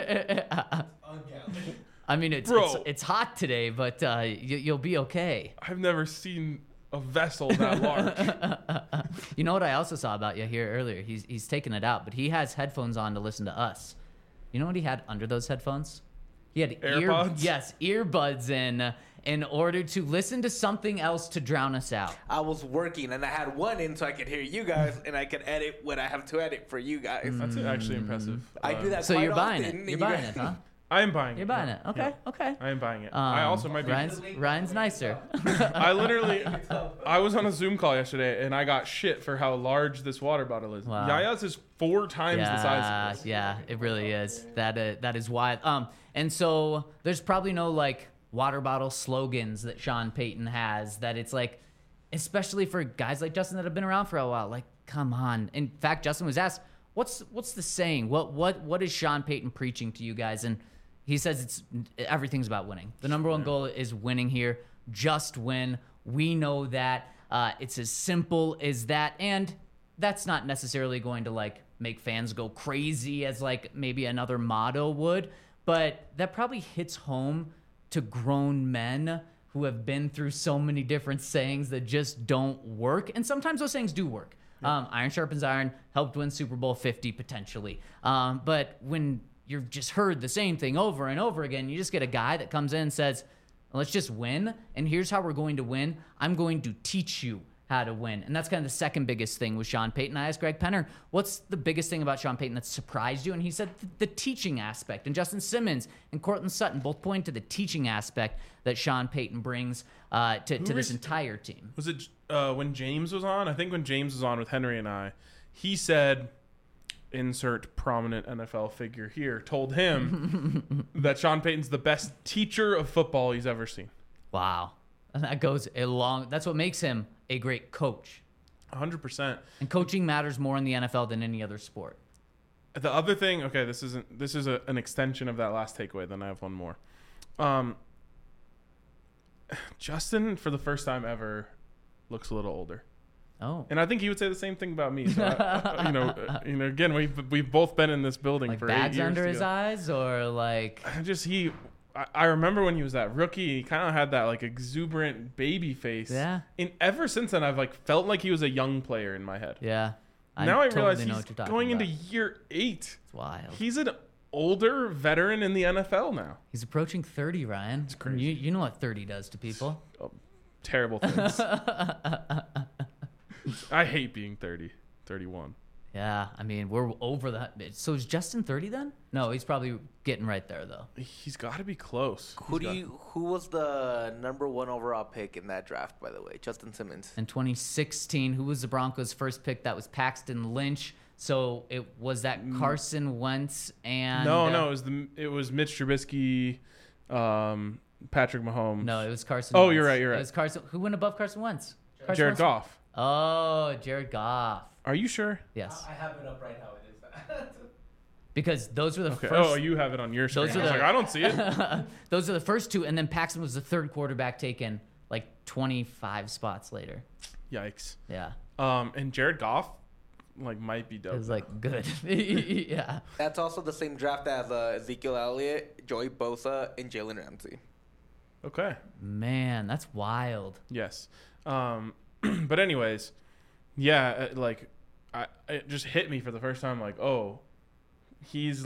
I mean, it's hot today, but you'll be okay. I've never seen a vessel that large. You know what I also saw about Yahir earlier? He's taking it out, but he has headphones on to listen to us. You know what he had under those headphones? He had AirPods? earbuds in order to listen to something else to drown us out. I was working and I had one in so I could hear you guys and I could edit what I have to edit for you guys. That's actually impressive. I do that So quite you're buying often, it. and You're you buying guys- it, huh? I am buying it. You're buying it. Okay, Yeah. okay. I am buying it. I also might be. Ryan's nicer. I literally, I was on a Zoom call yesterday and I got shit for how large this water bottle is. Wow. Yaya's is 4 times the size of this. Yeah, it really is. That is wild. And so there's probably no like water bottle slogans that Sean Payton has that it's like, especially for guys like Justin that have been around for a while. Like, come on. In fact, Justin was asked, "What's the saying? What is Sean Payton preaching to you guys?" And he says everything's about winning. The number one goal is winning here. Just win. We know that. It's as simple as that. And that's not necessarily going to like make fans go crazy as like maybe another motto would. But that probably hits home to grown men who have been through so many different sayings that just don't work. And sometimes those sayings do work. Iron sharpens iron, helped win Super Bowl 50 potentially. But when you've just heard the same thing over and over again, you just get a guy that comes in and says, let's just win, and here's how we're going to win. I'm going to teach you how to win. And that's kind of the second biggest thing with Sean Payton. I asked Greg Penner, what's the biggest thing about Sean Payton that surprised you? And he said the teaching aspect. And Justin Simmons and Cortland Sutton both point to the teaching aspect that Sean Payton brings to this entire team. Was it when James was on? I think when James was on with Henry and I, he said, insert prominent NFL figure here, told him that Sean Payton's the best teacher of football he's ever seen. Wow. And that goes that's what makes him a great coach. 100%. And coaching matters more in the NFL than any other sport. The other thing, okay, this is an extension of that last takeaway. Then I have one more. Justin, for the first time ever, looks a little older. Oh. And I think he would say the same thing about me. So again, we've both been in this building Like for bags 8 years under his together. eyes, or like I remember when he was that rookie, he kind of had that like exuberant baby face. Yeah. And ever since then, I've like felt like he was a young player in my head. yeah. Now I totally realize know he's what you're talking going about. into year 8. It's wild. He's an older veteran in the NFL now. He's approaching 30, Ryan. It's crazy. You know what 30 does to people. Terrible things. I hate being 30, 31. Yeah, I mean, we're over that. So is Justin 30 then? No, he's probably getting right there though. He's got to be close. Who was the number 1 overall pick in that draft, by the way? Justin Simmons. In 2016, who was the Broncos' first pick? That was Paxton Lynch. So it was that Carson Wentz and No, it was Mitch Trubisky, Patrick Mahomes. No, it was Carson. Oh, Wentz. you're right. It was Carson. Who went above Carson Wentz? Carson Jared Wentz? Goff. Oh, Jared Goff. Are you sure? Yes, I have it up right now. It is that. because those were the Okay. first. Oh, you have it on your screen. Those I are was the- like, I don't see it. Those are the first two, and then Paxton was the third quarterback taken like 25 spots later. Yikes. Yeah, And Jared Goff, might be it dope. was like good. Yeah. That's also the same draft as Ezekiel Elliott, Joey Bosa, and Jalen Ramsey. Okay. Man, that's wild. Yes. But anyways, yeah, it just hit me for the first time. Like, oh, he's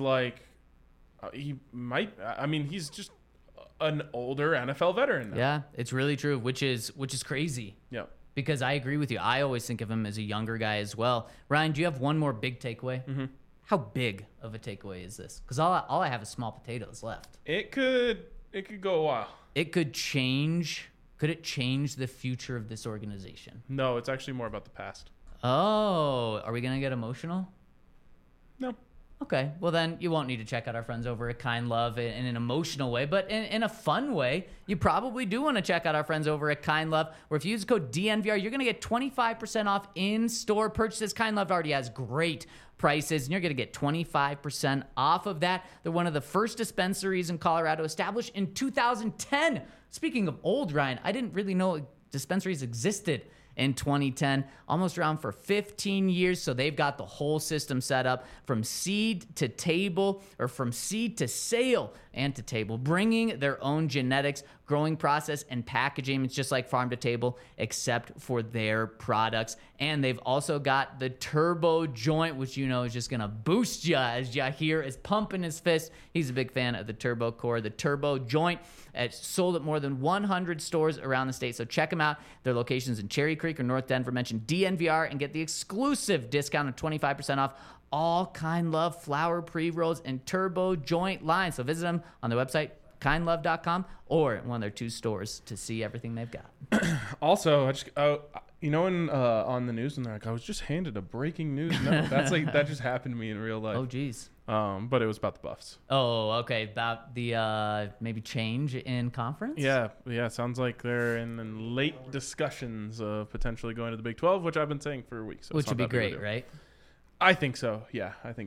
he's just an older NFL veteran now. Yeah, it's really true, which is crazy. Yeah. because I agree with you. I always think of him as a younger guy as well. Ryan, do you have one more big takeaway? Mm-hmm. How big of a takeaway is this? Because all I have is small potatoes left. It could go a while. It could change. Could it change the future of this organization? No, it's actually more about the past. Oh, are we going to get emotional? No. Okay, well then you won't need to check out our friends over at Kind Love in an emotional way, but in a fun way, you probably do want to check out our friends over at Kind Love, where if you use the code DNVR, you're going to get 25% off in-store purchases. Kind Love already has great prices, and you're going to get 25% off of that. They're one of the first dispensaries in Colorado, established in 2010. Speaking of old, Ryan, I didn't really know dispensaries existed in 2010, almost around for 15 years. So they've got the whole system set up from seed to table, or from seed to sale and to table, bringing their own genetics, growing process, and packaging. It's just like farm to table, except for their products. And they've also got the Turbo Joint, which you know is just going to boost you, as Yahir is pumping his fist. He's a big fan of the Turbo Core. The Turbo Joint, it's sold at more than 100 stores around the state. So check them out. Their locations in Cherry Creek or North Denver. Mention DNVR and get the exclusive discount of 25% off all Kind Love flower pre-rolls and Turbo Joint lines. So visit them on their website, kindlove.com, or in one of their 2 stores to see everything they've got. Also, I just on the news, and they're like, I was just handed a breaking news. No, that's like that just happened to me in real life. Oh, geez. But it was about the Buffs. Oh, okay. About the maybe change in conference? Yeah. Sounds like they're in late discussions of potentially going to the Big 12, which I've been saying for weeks. So which would be great, right? I think so. Yeah, I think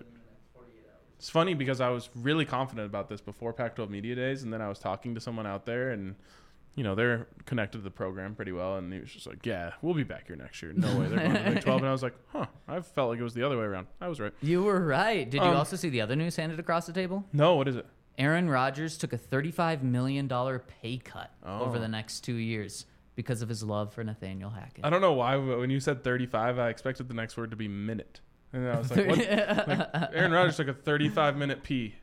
it's funny because I was really confident about this before Pac-12 Media Days, and then I was talking to someone out there, and you know they're connected to the program pretty well, and he was just like, "Yeah, we'll be back here next year. No way they're going to the Big 12." And I was like, "Huh." I felt like it was the other way around. I was right. You were right. Did you also see the other news handed across the table? No, what is it? Aaron Rodgers took a $35 million pay cut over the next 2 years because of his love for Nathaniel Hackett. I don't know why, but when you said 35, I expected the next word to be minute. And I was like, what? Like, Aaron Rodgers took a 35-minute pee.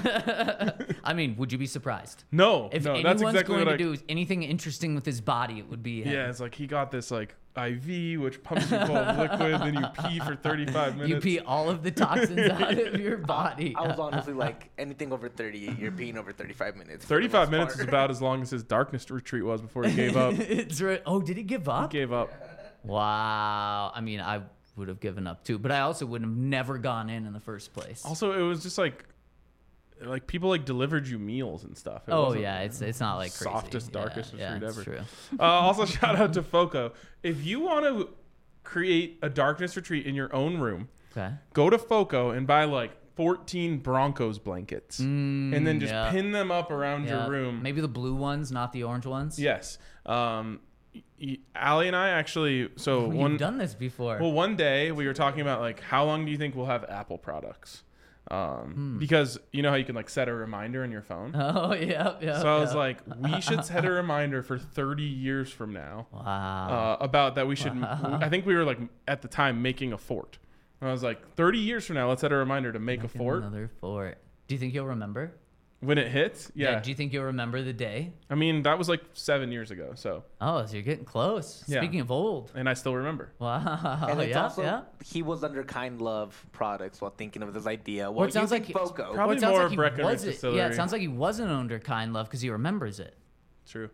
I mean, would you be surprised? No, If no, anyone's that's exactly going what to do anything interesting with his body, it would be him. Yeah, it's like he got this like IV, which pumps you full of liquid, then you pee for 35 minutes. You pee all of the toxins out of your body. I was honestly like, anything over 30, you're peeing over 35 minutes. 35 minutes is about as long as his darkness retreat was before he gave up. It's right. Oh, did he give up? He gave up. Wow. I mean, I would have given up too, but I also would have never gone in the first place. Also, it was just like people like delivered you meals and stuff. It Oh wasn't yeah, it's not like crazy. softest, darkest retreat it's ever. True. Also, shout out to Foco. If you want to create a darkness retreat in your own room, Okay. go to Foco and buy like 14 Broncos blankets, and then just yeah. pin them up around Yeah. your room. Maybe the blue ones, not the orange ones. Yes. Allie and I actually. So You've done this before. Well, one day we were talking about like how long do you think we'll have Apple products? Because you know how you can like set a reminder in your phone. Oh yeah. So I was like, we should set a reminder for 30 years from now. Wow. About that we should. I think we were like at the time making a fort. And I was like, 30 years from now, let's set a reminder to make a fort. Another fort. Do you think you'll remember? When it hits, yeah. Do you think you'll remember the day? I mean, that was like 7 years ago. So. Oh, so you're getting close. Yeah. Speaking of old. And I still remember. Wow. And it's yeah, also, yeah. he was under Kind Love products while thinking of this idea. Well, it sounds like Foco. Probably Well, it sounds more like he Breckenridge wasn't- Distillery. Yeah, it sounds like he wasn't under Kind Love because he remembers it. True.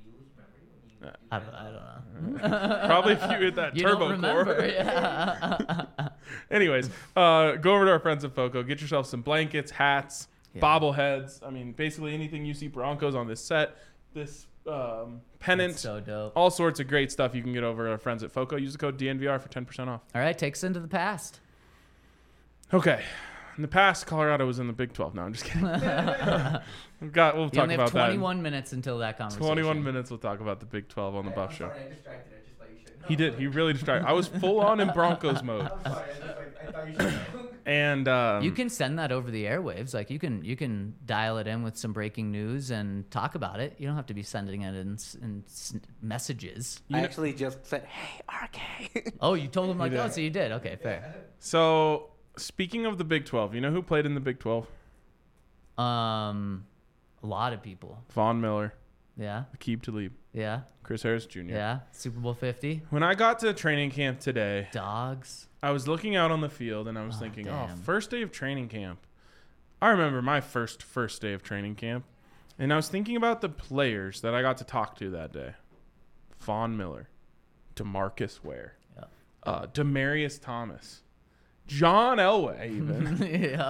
I don't know. Probably if you hit that You turbo don't remember. core. Yeah. Anyways, go over to our friends at Foco. Get yourself some blankets, hats, Yeah. bobbleheads. I mean, basically anything you see Broncos on this set, this pennant, That's so dope. all sorts of great stuff you can get over at our friends at Foco. Use the code DNVR for 10% off. All right, take us into the past. Okay. In the past, Colorado was in the Big 12. No, I'm just kidding. We'll You talk only have about 21 minutes until that that. conversation. 21 minutes. We'll talk about the Big 12 on the Buff Show. Sorry, I distracted. I just thought you should know. He did. He really distracted. I was full on in Broncos mode. I'm sorry. I thought you should know. And You can send that over the airwaves. Like you can dial it in with some breaking news and talk about it. You don't have to be sending it in messages. I actually just said, hey, RK. Oh, you told him like, did. oh, so you did. Okay, fair. So, speaking of the Big 12, you know who played in the Big 12? A lot of people. Von Miller. Yeah. Aqib Talib, Yeah. Chris Harris Jr. Yeah. Super Bowl 50. When I got to training camp today, Dogs. I was looking out on the field and I was thinking, damn. first day of training camp. I remember my first day of training camp. And I was thinking about the players that I got to talk to that day. Von Miller, DeMarcus Ware, Demarius Thomas, John Elway even.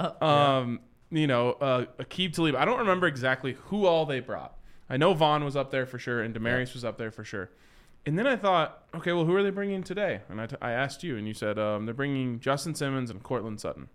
Aqib Talib. I don't remember exactly who all they brought. I know Vaughn was up there for sure, and Demarius was up there for sure. And then I thought, okay, well, who are they bringing today? And I asked you, and you said they're bringing Justin Simmons and Cortland Sutton.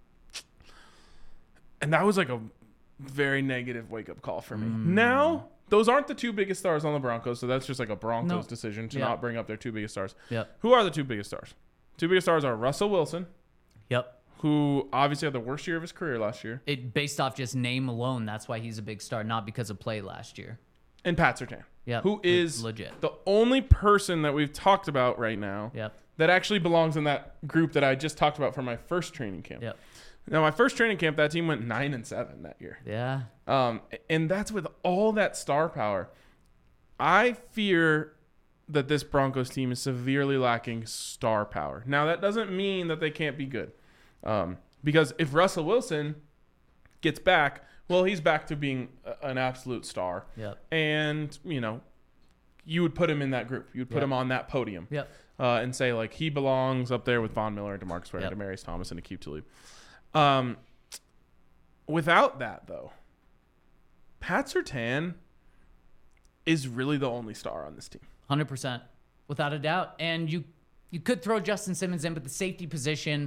And that was like a very negative wake-up call for me. Now, those aren't the two biggest stars on the Broncos, so that's just like a Broncos decision to not bring up their two biggest stars. Yep. Who are the two biggest stars? Two biggest stars are Russell Wilson, Yep. who obviously had the worst year of his career last year, Based off just name alone, that's why he's a big star, not because of play last year. and Pat Surtain, Yep. who is legit. the only person that we've talked about right now Yep. that actually belongs in that group that I just talked about for my first training camp. Yep. Now, my first training camp, that team went 9-7 that year. Yeah. And that's with all that star power. I fear that this Broncos team is severely lacking star power. Now, that doesn't mean that they can't be good. Because if Russell Wilson gets back, well, he's back to being an absolute star. Yep. And, you would put him in that group. You would put him on that podium. Yep. And say, like, he belongs up there with Von Miller and DeMarcus Ware and Demarius Thomas and Aqib Talib. Without that, though, Pat Surtain is really the only star on this team. 100%, without a doubt. And you could throw Justin Simmons in, but the safety position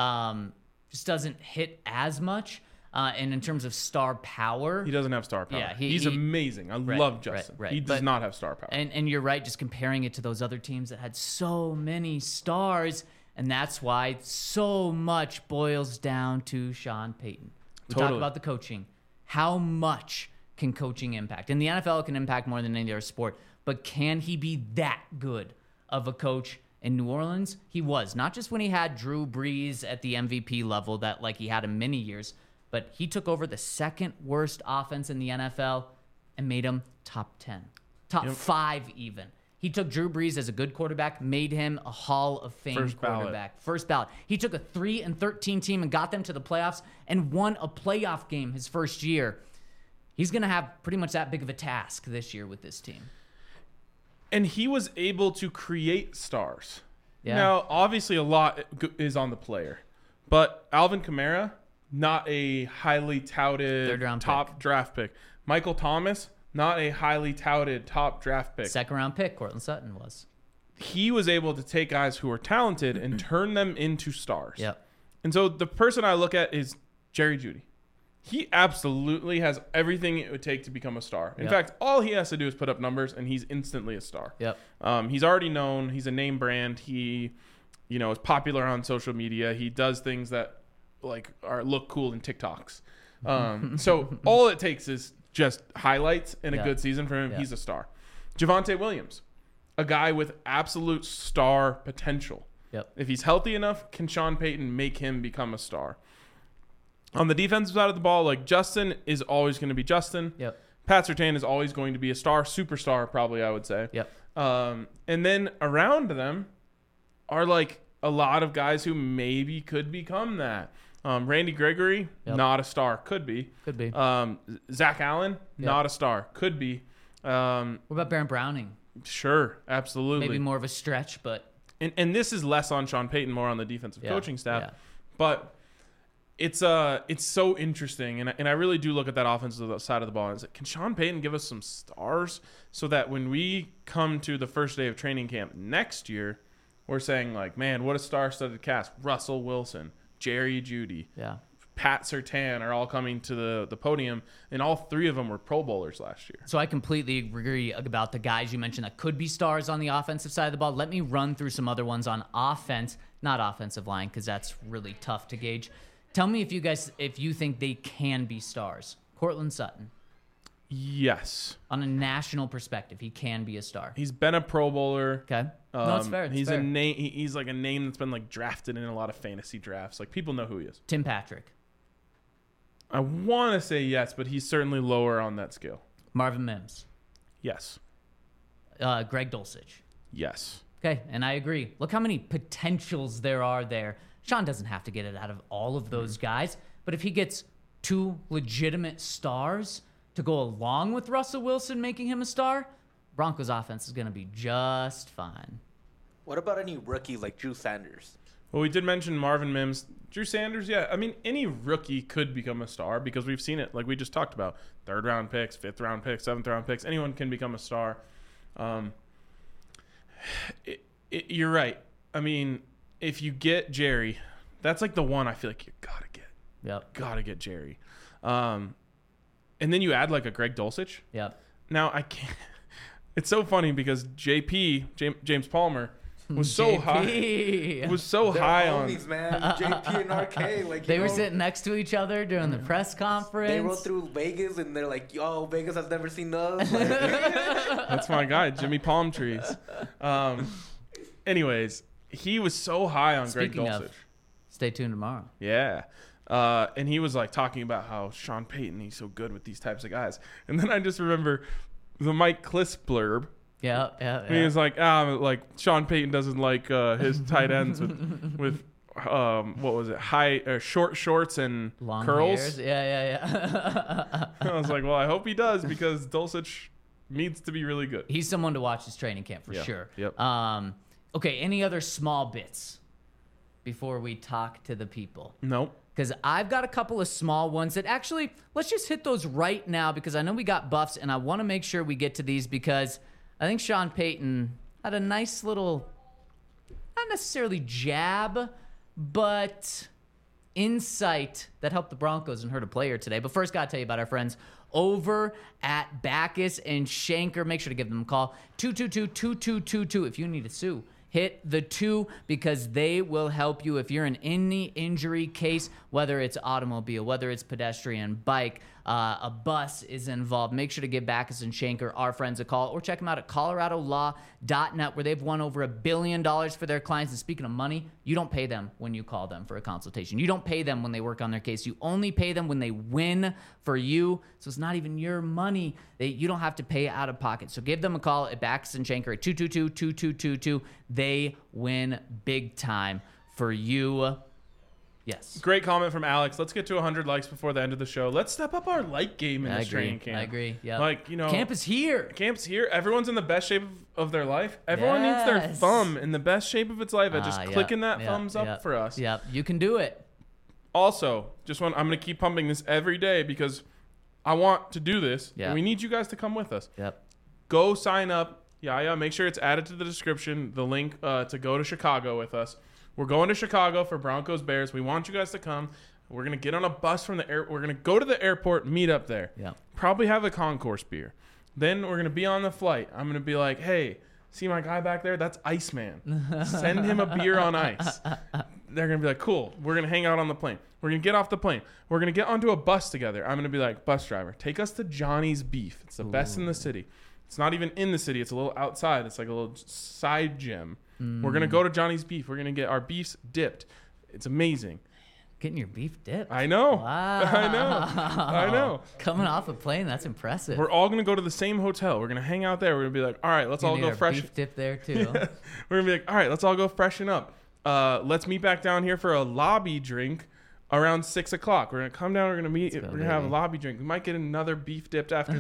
just doesn't hit as much. And in terms of star power, He doesn't have star power. Yeah, he's amazing. I love Justin. right. He does not have star power. And you're right, just comparing it to those other teams that had so many stars, and that's why so much boils down to Sean Payton. We talk about the coaching. How much can coaching impact? In the NFL, it can impact more than any other sport, but can he be that good of a coach? In New Orleans, he was. Not just when he had Drew Brees at the MVP level that like he had in many years, but he took over the second worst offense in the NFL and made him top 10, top 5 even. He took Drew Brees as a good quarterback, made him a Hall of Fame quarterback. First ballot. He took a 3-13 team and got them to the playoffs and won a playoff game his first year. He's going to have pretty much that big of a task this year with this team. And he was able to create stars. Yeah. Now, obviously, a lot is on the player. But Alvin Kamara, not a highly touted Third-round top draft pick. Michael Thomas, not a highly touted top draft pick. Second round pick, Cortland Sutton was. He was able to take guys who were talented and turn them into stars. Yep. And so the person I look at is Jerry Jeudy. He absolutely has everything it would take to become a star. In fact, all he has to do is put up numbers, and he's instantly a star. Yep. He's already known. He's a name brand. He, is popular on social media. He does things that look cool in TikToks. So all it takes is just highlights in a good season for him. He's a star. Javonte Williams, a guy with absolute star potential. Yep. If he's healthy enough, can Sean Payton make him become a star? On the defensive side of the ball, Justin is always going to be Justin. Yep. Pat Surtain is always going to be a star, superstar probably, I would say. Yep. And then around them are a lot of guys who maybe could become that. Randy Gregory, not a star, could be. Could be. Zach Allen, not a star, could be. What about Baron Browning? Sure, absolutely. Maybe more of a stretch, but and this is less on Sean Payton, more on the defensive coaching staff. Yeah. But it's so interesting, and I really do look at that offensive side of the ball and say, can Sean Payton give us some stars so that when we come to the first day of training camp next year, we're saying man, what a star-studded cast. Russell Wilson, Jerry Jeudy, Pat Surtain are all coming to the podium, and all three of them were Pro Bowlers last year. So I completely agree about the guys you mentioned that could be stars on the offensive side of the ball. Let me run through some other ones on offense, not offensive line, because that's really tough to gauge. Tell me if you think they can be stars. Cortland Sutton. Yes. On a national perspective, he can be a star. He's been a Pro Bowler. Okay. No, it's fair. He's a name. He's a name that's been drafted in a lot of fantasy drafts. People know who he is. Tim Patrick. I want to say yes, but he's certainly lower on that scale. Marvin Mims. Yes. Greg Dulcich. Yes. Okay, and I agree. Look how many potentials there are there. Sean doesn't have to get it out of all of those guys, but if he gets 2 legitimate stars to go along with Russell Wilson making him a star, Broncos offense is going to be just fine. What about any rookie like Drew Sanders? Well, we did mention Marvin Mims. Drew Sanders, yeah. I mean, any rookie could become a star because we've seen it, like we just talked about. 3rd-round picks, 5th-round picks, 7th-round picks. Anyone can become a star. You're right. I mean, if you get Jerry, that's like the one I feel like you got to get. Yep. Got to get Jerry. And then you add like a Greg Dulcich. Yep. Now, I can't. It's so funny because James Palmer, was so high. Was so They're high homies, on. man. JP and RK, like They were sitting next to each other during the press conference. They rode through Vegas, and they're like, "Yo, Vegas has never seen us." Like, That's my guy, Jimmy Palm Trees. Anyways, he was so high on Speaking Greg of, Dulcich. stay tuned tomorrow. Yeah. And he was like talking about how Sean Payton, he's so good with these types of guys. And then I just remember the Mike Kliss blurb. Yeah. He was like Sean Payton doesn't like his tight ends with what was it, short shorts and Long curls. hairs. Yeah. I was like, well, I hope he does because Dulcich needs to be really good. He's someone to watch this training camp for Yeah. sure. Yep. Okay, any other small bits before we talk to the people? Nope. Because I've got a couple of small ones that actually, let's just hit those right now because I know we got buffs and I want to make sure we get to these because I think Sean Payton had a nice little, not necessarily jab, but insight that helped the Broncos and hurt a player today. But first, got to tell you about our friends over at Backus and Shanker. Make sure to give them a call. 222-2222 if you need to sue. Hit the 2 because they will help you if you're in any injury case, whether it's automobile, whether it's pedestrian, bike, a bus is involved. Make sure to give Backus and Shanker, our friends, a call or check them out at coloradolaw.net where they've won over $1 billion for their clients. And speaking of money, you don't pay them when you call them for a consultation. You don't pay them when they work on their case. You only pay them when they win for you. So it's not even your money. You don't have to pay out of pocket. So give them a call at Backus and Shanker at 222-2222. They win big time for you. Yes. Great comment from Alex. Let's get to 100 likes before the end of the show. Let's step up our like game in this training camp. I agree. Yeah. Like, you know, camp is here. Camp's here. Everyone's in the best shape of their life. Everyone needs their Yes. thumb in the best shape of its life at just clicking that thumbs up Yep. for us. Yep. You can do it. Also, I'm going to keep pumping this every day because I want to do this. Yeah. And we need you guys to come with us. Yep. Go sign up. Yeah. Make sure it's added to the description, the link to go to Chicago with us. We're going to Chicago for Broncos Bears. We want you guys to come. We're going to get on a bus from the air. We're going to go to the airport, meet up there. Yeah. Probably have a concourse beer. Then we're going to be on the flight. I'm going to be like, hey, see my guy back there? That's Iceman. Send him a beer on ice. They're going to be like, cool. We're going to hang out on the plane. We're going to get off the plane. We're going to get onto a bus together. I'm going to be like, bus driver, take us to Johnny's Beef. It's the best in the city. It's not even in the city. It's a little outside. It's like a little side gym. We're going to go to Johnny's Beef. We're going to get our beefs dipped. It's amazing. Getting your beef dipped. I know. Wow. I know. Coming off a plane, that's impressive. We're all going to go to the same hotel. We're going to hang out there. We're going to be like, all right, let's all Need go our fresh. beef dip there too. We're going to be like, all right, let's all go freshen up. Let's meet back down here for a lobby drink around 6 o'clock. We're going to come down. We're going to meet. We're going to have a lobby drink. We might get another beef dipped after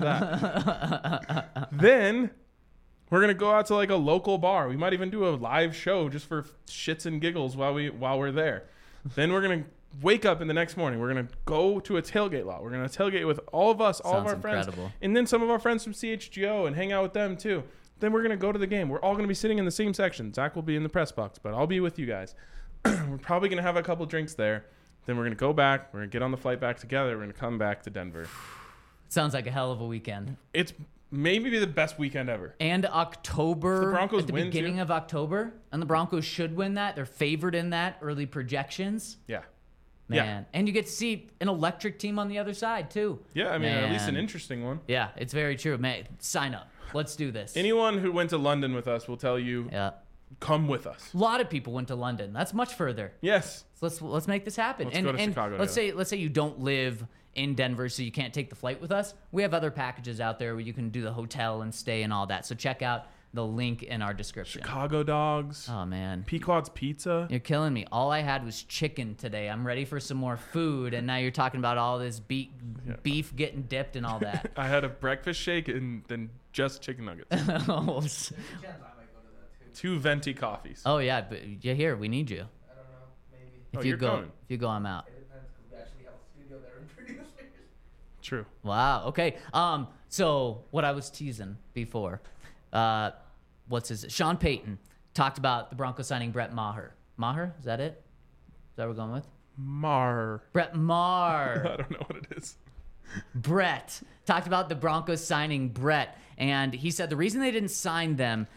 that. Then we're going to go out to like a local bar. We might even do a live show just for shits and giggles while we're there. Then we're going to wake up in the next morning. We're going to go to a tailgate lot. We're going to tailgate with all of us, all of Sounds our friends. incredible. And then some of our friends from CHGO and hang out with them too. Then we're going to go to the game. We're all going to be sitting in the same section. Zach will be in the press box, but I'll be with you guys. We're probably going to have a couple drinks there. Then we're going to go back. We're going to get on the flight back together. We're going to come back to Denver. Sounds like a hell of a weekend. It's maybe the best weekend ever. And October, If the Broncos at the win, beginning too. of October, and the Broncos should win that. They're favored in that early projections. Yeah. Man. Yeah. And you get to see an electric team on the other side too. Yeah, I mean, at least an Man. interesting one. Yeah, it's very true. Man, sign up. Let's do this. Anyone who went to London with us will tell you, Yeah. come with us. A lot of people went to London. That's much further. Yes. So let's make this happen. Let's go to Chicago let's say you don't live in Denver, so you can't take the flight with us, we have other packages out there where you can do the hotel and stay and all that. So check out the link in our description. Chicago dogs. Oh, man. Pequod's Pizza. You're killing me. All I had was chicken today. I'm ready for some more food, and now you're talking about all this beef getting dipped and all that. I had a breakfast shake and then just chicken nuggets. Oh, Chance I might go to that too. 2 venti coffees. oh, yeah, but you're here. We need you. I don't know. Maybe. If Oh, you you're go, coming. if you go, I'm out. It depends because we actually have a studio there and producers. True. Wow. Okay. So what I was teasing before, Sean Payton talked about the Broncos signing Brett Maher. Maher? Is that it? Is that what we're going with? Brett I Maher. don't know what it is. Brett talked about the Broncos signing Brett, and he said the reason they didn't sign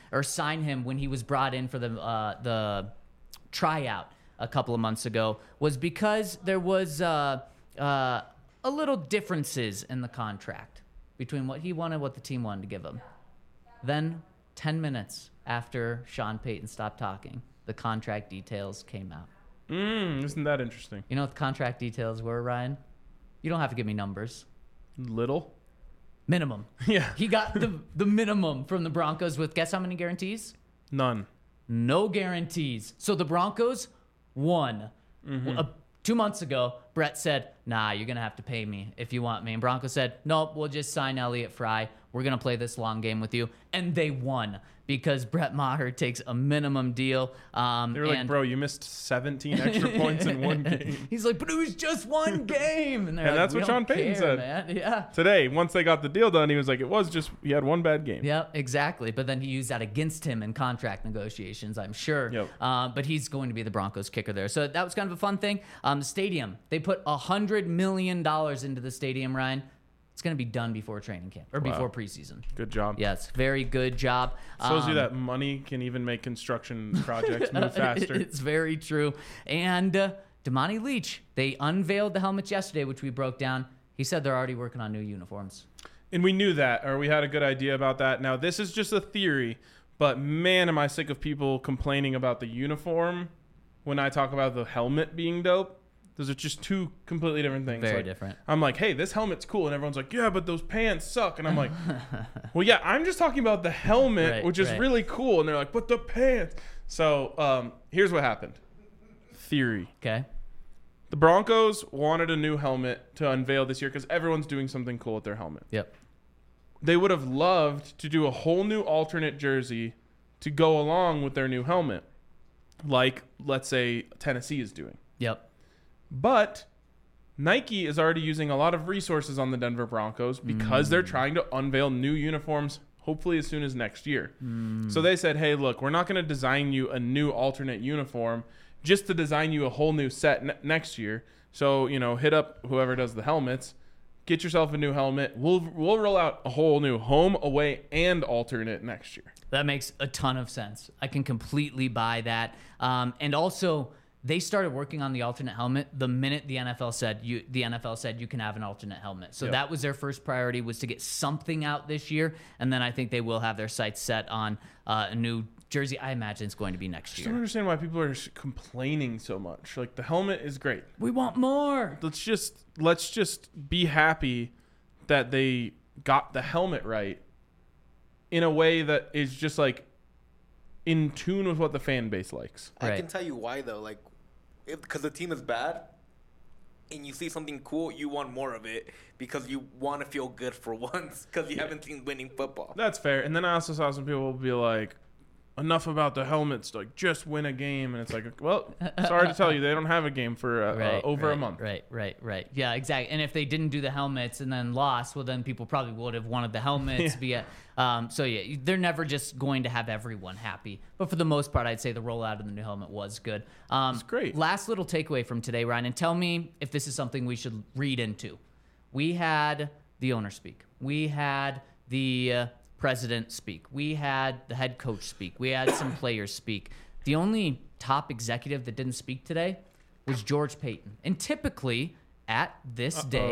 him when he was brought in for the tryout a couple of months ago was because there was a little differences in the contract between what he wanted and what the team wanted to give him. Then 10 minutes after Sean Payton stopped talking, the contract details came out. Isn't that interesting? You know what the contract details were, Ryan? You don't have to give me numbers. Little? Minimum. Yeah. He got the minimum from the Broncos with guess how many guarantees? None. No guarantees. So the Broncos won. 2 months ago, Brett said, nah, you're going to have to pay me if you want me. And Broncos said, nope, we'll just sign Elliott Fry. We're going to play this long game with you. And they won because Brett Maher takes a minimum deal. They were like, bro, you missed 17 extra points in one game. He's like, but it was just one game. And, they're And like, that's "We what don't Sean Payton care, said. Man." Yeah. Today, once they got the deal done, he was like, he had one bad game. Yep, exactly. But then he used that against him in contract negotiations, I'm sure. Yep. But he's going to be the Broncos kicker there. So that was kind of a fun thing. The stadium, they put $100 million into the stadium, Ryan. It's going to be done before training camp or before preseason. Good job. Yes, very good job. Shows you that money can even make construction projects move faster. It's very true. And Damani Leach, they unveiled the helmets yesterday, which we broke down. He said they're already working on new uniforms. And we knew that, or we had a good idea about that. Now, this is just a theory, but man, am I sick of people complaining about the uniform when I talk about the helmet being dope. Those are just two completely different things. Very like, different. I'm like, hey, this helmet's cool. And everyone's like, yeah, but those pants suck. And I'm like, well, yeah, I'm just talking about the helmet, Right, which is right. really cool. And they're like, but the pants. So here's what happened. Theory. Okay. The Broncos wanted a new helmet to unveil this year because everyone's doing something cool with their helmet. Yep. They would have loved to do a whole new alternate jersey to go along with their new helmet, like, let's say, Tennessee is doing. Yep. But Nike is already using a lot of resources on the Denver Broncos because they're trying to unveil new uniforms, hopefully as soon as next year. So they said, hey, look, we're not going to design you a new alternate uniform just to design you a whole new set next year. So, hit up whoever does the helmets, get yourself a new helmet. We'll roll out a whole new home, away, and alternate next year. That makes a ton of sense. I can completely buy that. And also, they started working on the alternate helmet the minute the NFL said you can have an alternate helmet. So Yep. that was their first priority, was to get something out this year. And then I think they will have their sights set on a new jersey. I imagine it's going to be next I don't year. understand why people are complaining so much. Like, the helmet is great. We want more. Let's just be happy that they got the helmet right in a way that is just like in tune with what the fan base likes. I Right. can tell you why though. Like, because the team is bad, and you see something cool, you want more of it because you want to feel good for once because you haven't seen winning football. That's fair. And then I also saw some people be like, enough about the helmets, like just win a game. And it's like, well, sorry to tell you, they don't have a game for over a month. Right. Yeah, exactly. And if they didn't do the helmets and then lost, well, then people probably would have wanted the helmets. So yeah, they're never just going to have everyone happy. But for the most part, I'd say the rollout of the new helmet was good. It's great. Last little takeaway from today, Ryan, and tell me if this is something we should read into. We had the owner speak. We had the president speak. We had the head coach speak. We had some players speak. The only top executive that didn't speak today was George Payton. And typically, at this day,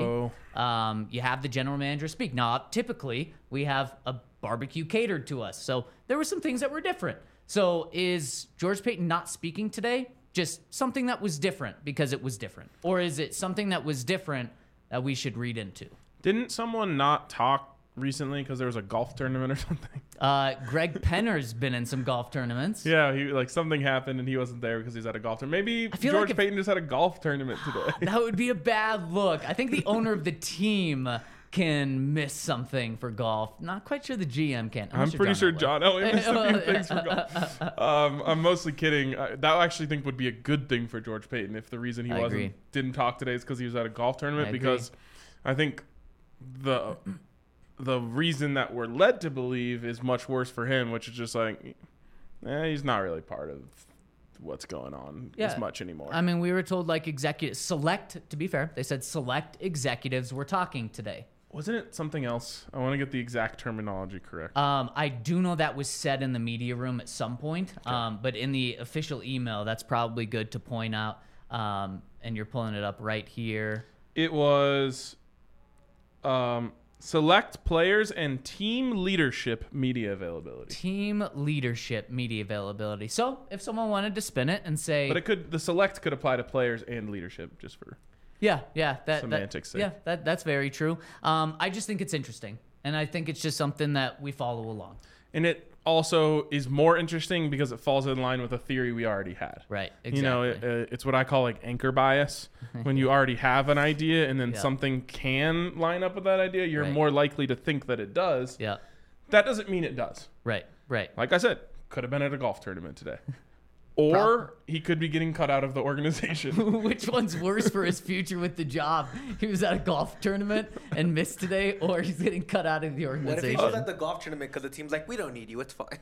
you have the general manager speak. Now, typically, we have a barbecue catered to us. So there were some things that were different. So is George Payton not speaking today just something that was different because it was different? Or is it something that was different that we should read into. Didn't someone not talk recently because there was a golf tournament or something? Greg Penner's been in some golf tournaments. Yeah, he something happened and he wasn't there because he's at a golf tournament. Maybe feel George like if- Payton just had a golf tournament today. That would be a bad look. I think the owner of the team can miss something for golf. Not quite sure the GM can. I'm pretty sure John Elway missed a few things for golf. I'm mostly kidding. That I actually think would be a good thing for George Payton if the reason he I agree. didn't talk today is because he was at a golf tournament. I agree. Because I think the reason that we're led to believe is much worse for him, which is just like, he's not really part of what's going on as much anymore. I mean, we were told like to be fair, they said select executives were talking today. Wasn't it something else? I want to get the exact terminology correct. I do know that was said in the media room at some point, but in the official email, that's probably good to point out. And you're pulling it up right here. It was select players and team leadership media availability. Team leadership media availability. So if someone wanted to spin it and say, But the select could apply to players and leadership just for. Semantics sake. Yeah, that's very true. I just think it's interesting, and I think it's just something that we follow along. And it also is more interesting because it falls in line with a theory we already had. Right, exactly. You know, it's what I call like anchor bias. When you already have an idea and then something can line up with that idea, you're more likely to think that it does. Yeah. That doesn't mean it does. Right. Like I said, could have been at a golf tournament today. Or he could be getting cut out of the organization. Which one's worse for his future with the job? He was at a golf tournament and missed today, or he's getting cut out of the What if organization? he was at the golf tournament because the team's like, we don't need you, it's fine.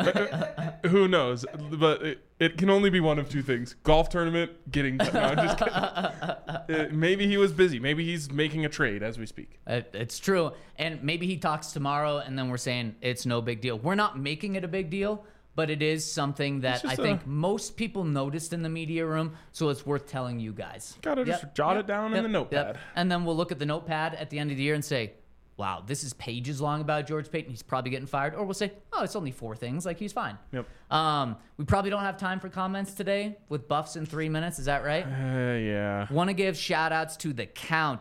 Who knows? But it can only be one of two things. Golf tournament, getting cut. No, I'm just kidding. Maybe he was busy. Maybe he's making a trade as we speak. It's true. And maybe he talks tomorrow, and then we're saying it's no big deal. We're not making it a big deal, but it is something that I think most people noticed in the media room, so it's worth telling you guys. Gotta just jot it down in the notepad. And then we'll look at the notepad at the end of the year and say, wow, this is pages long about George Payton. He's probably getting fired. Or we'll say, oh, it's only 4 things. Like, he's fine. Yep. We probably don't have time for comments today with buffs in 3 minutes. Is that right? Yeah. Want to give shout-outs to The Count,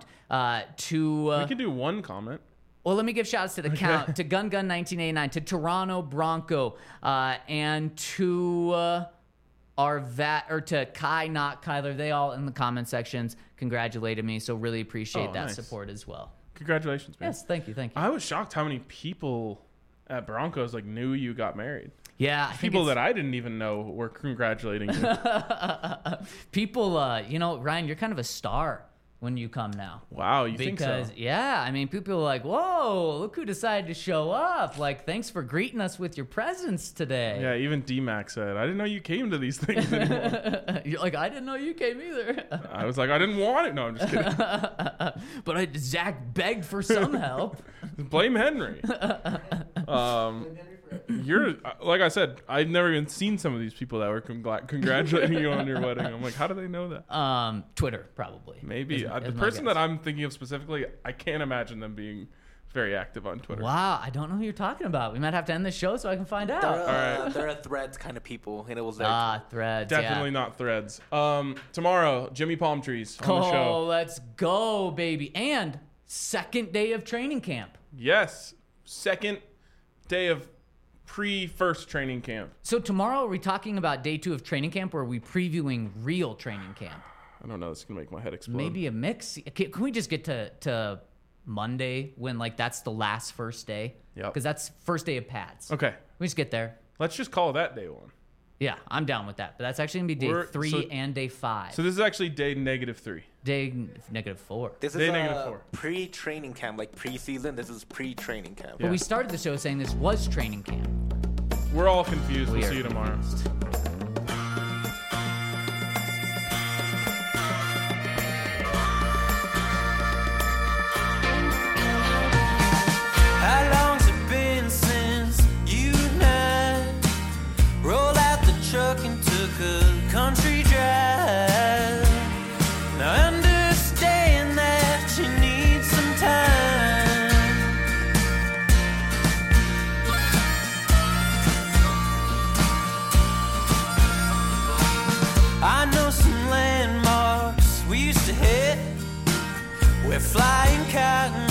we could do one comment. Well, let me give shout-outs to The Count, to Gun 1989, to Toronto Bronco, and to to Kai, not Kyler. They all in the comment sections congratulated me, so really appreciate that support as well. Congratulations, man. Yes, thank you. I was shocked how many people at Broncos knew you got married. Yeah, people that I didn't even know were congratulating you. People, Ryan, you're kind of a star when you come now. Wow, you think so? Because, yeah, I mean, people are like, whoa, look who decided to show up. Like, thanks for greeting us with your presence today. Yeah, even D-Mac said, I didn't know you came to these things anymore. You're like, I didn't know you came either. I was like, I didn't want it. No, I'm just kidding. But Zach begged for some help. Blame Henry. You're, like I said, I've never even seen some of these people that were congratulating you on your wedding. I'm like, how do they know that? Twitter, probably. Maybe. The person that I'm thinking of specifically, I can't imagine them being very active on Twitter. Wow, I don't know who you're talking about. We might have to end the show so I can find out. They're a Threads kind of people, and it was there. Threads. Definitely not Threads. Tomorrow, Jimmy Palm Trees on the show. Oh, let's go, baby. And second day of training camp. Yes. Second day of pre-first training camp. So tomorrow, are we talking about day 2 of training camp, or are we previewing real training camp? I don't know. This is going to make my head explode. Maybe a mix. Can we just get to Monday when, that's the last first day? Yep. Because that's first day of pads. Okay. We just get there. Let's just call that day 1. Yeah, I'm down with that. But that's actually going to be day 3 and day 5. So this is actually day -3. Day -4. This day is -4. Pre-training camp, like pre-season. This is pre-training camp. But we started the show saying this was training camp. We're all confused. We'll see you tomorrow. How long's it been since you and I rolled out the truck and took a country drive? Now I understand that you need some time. cotton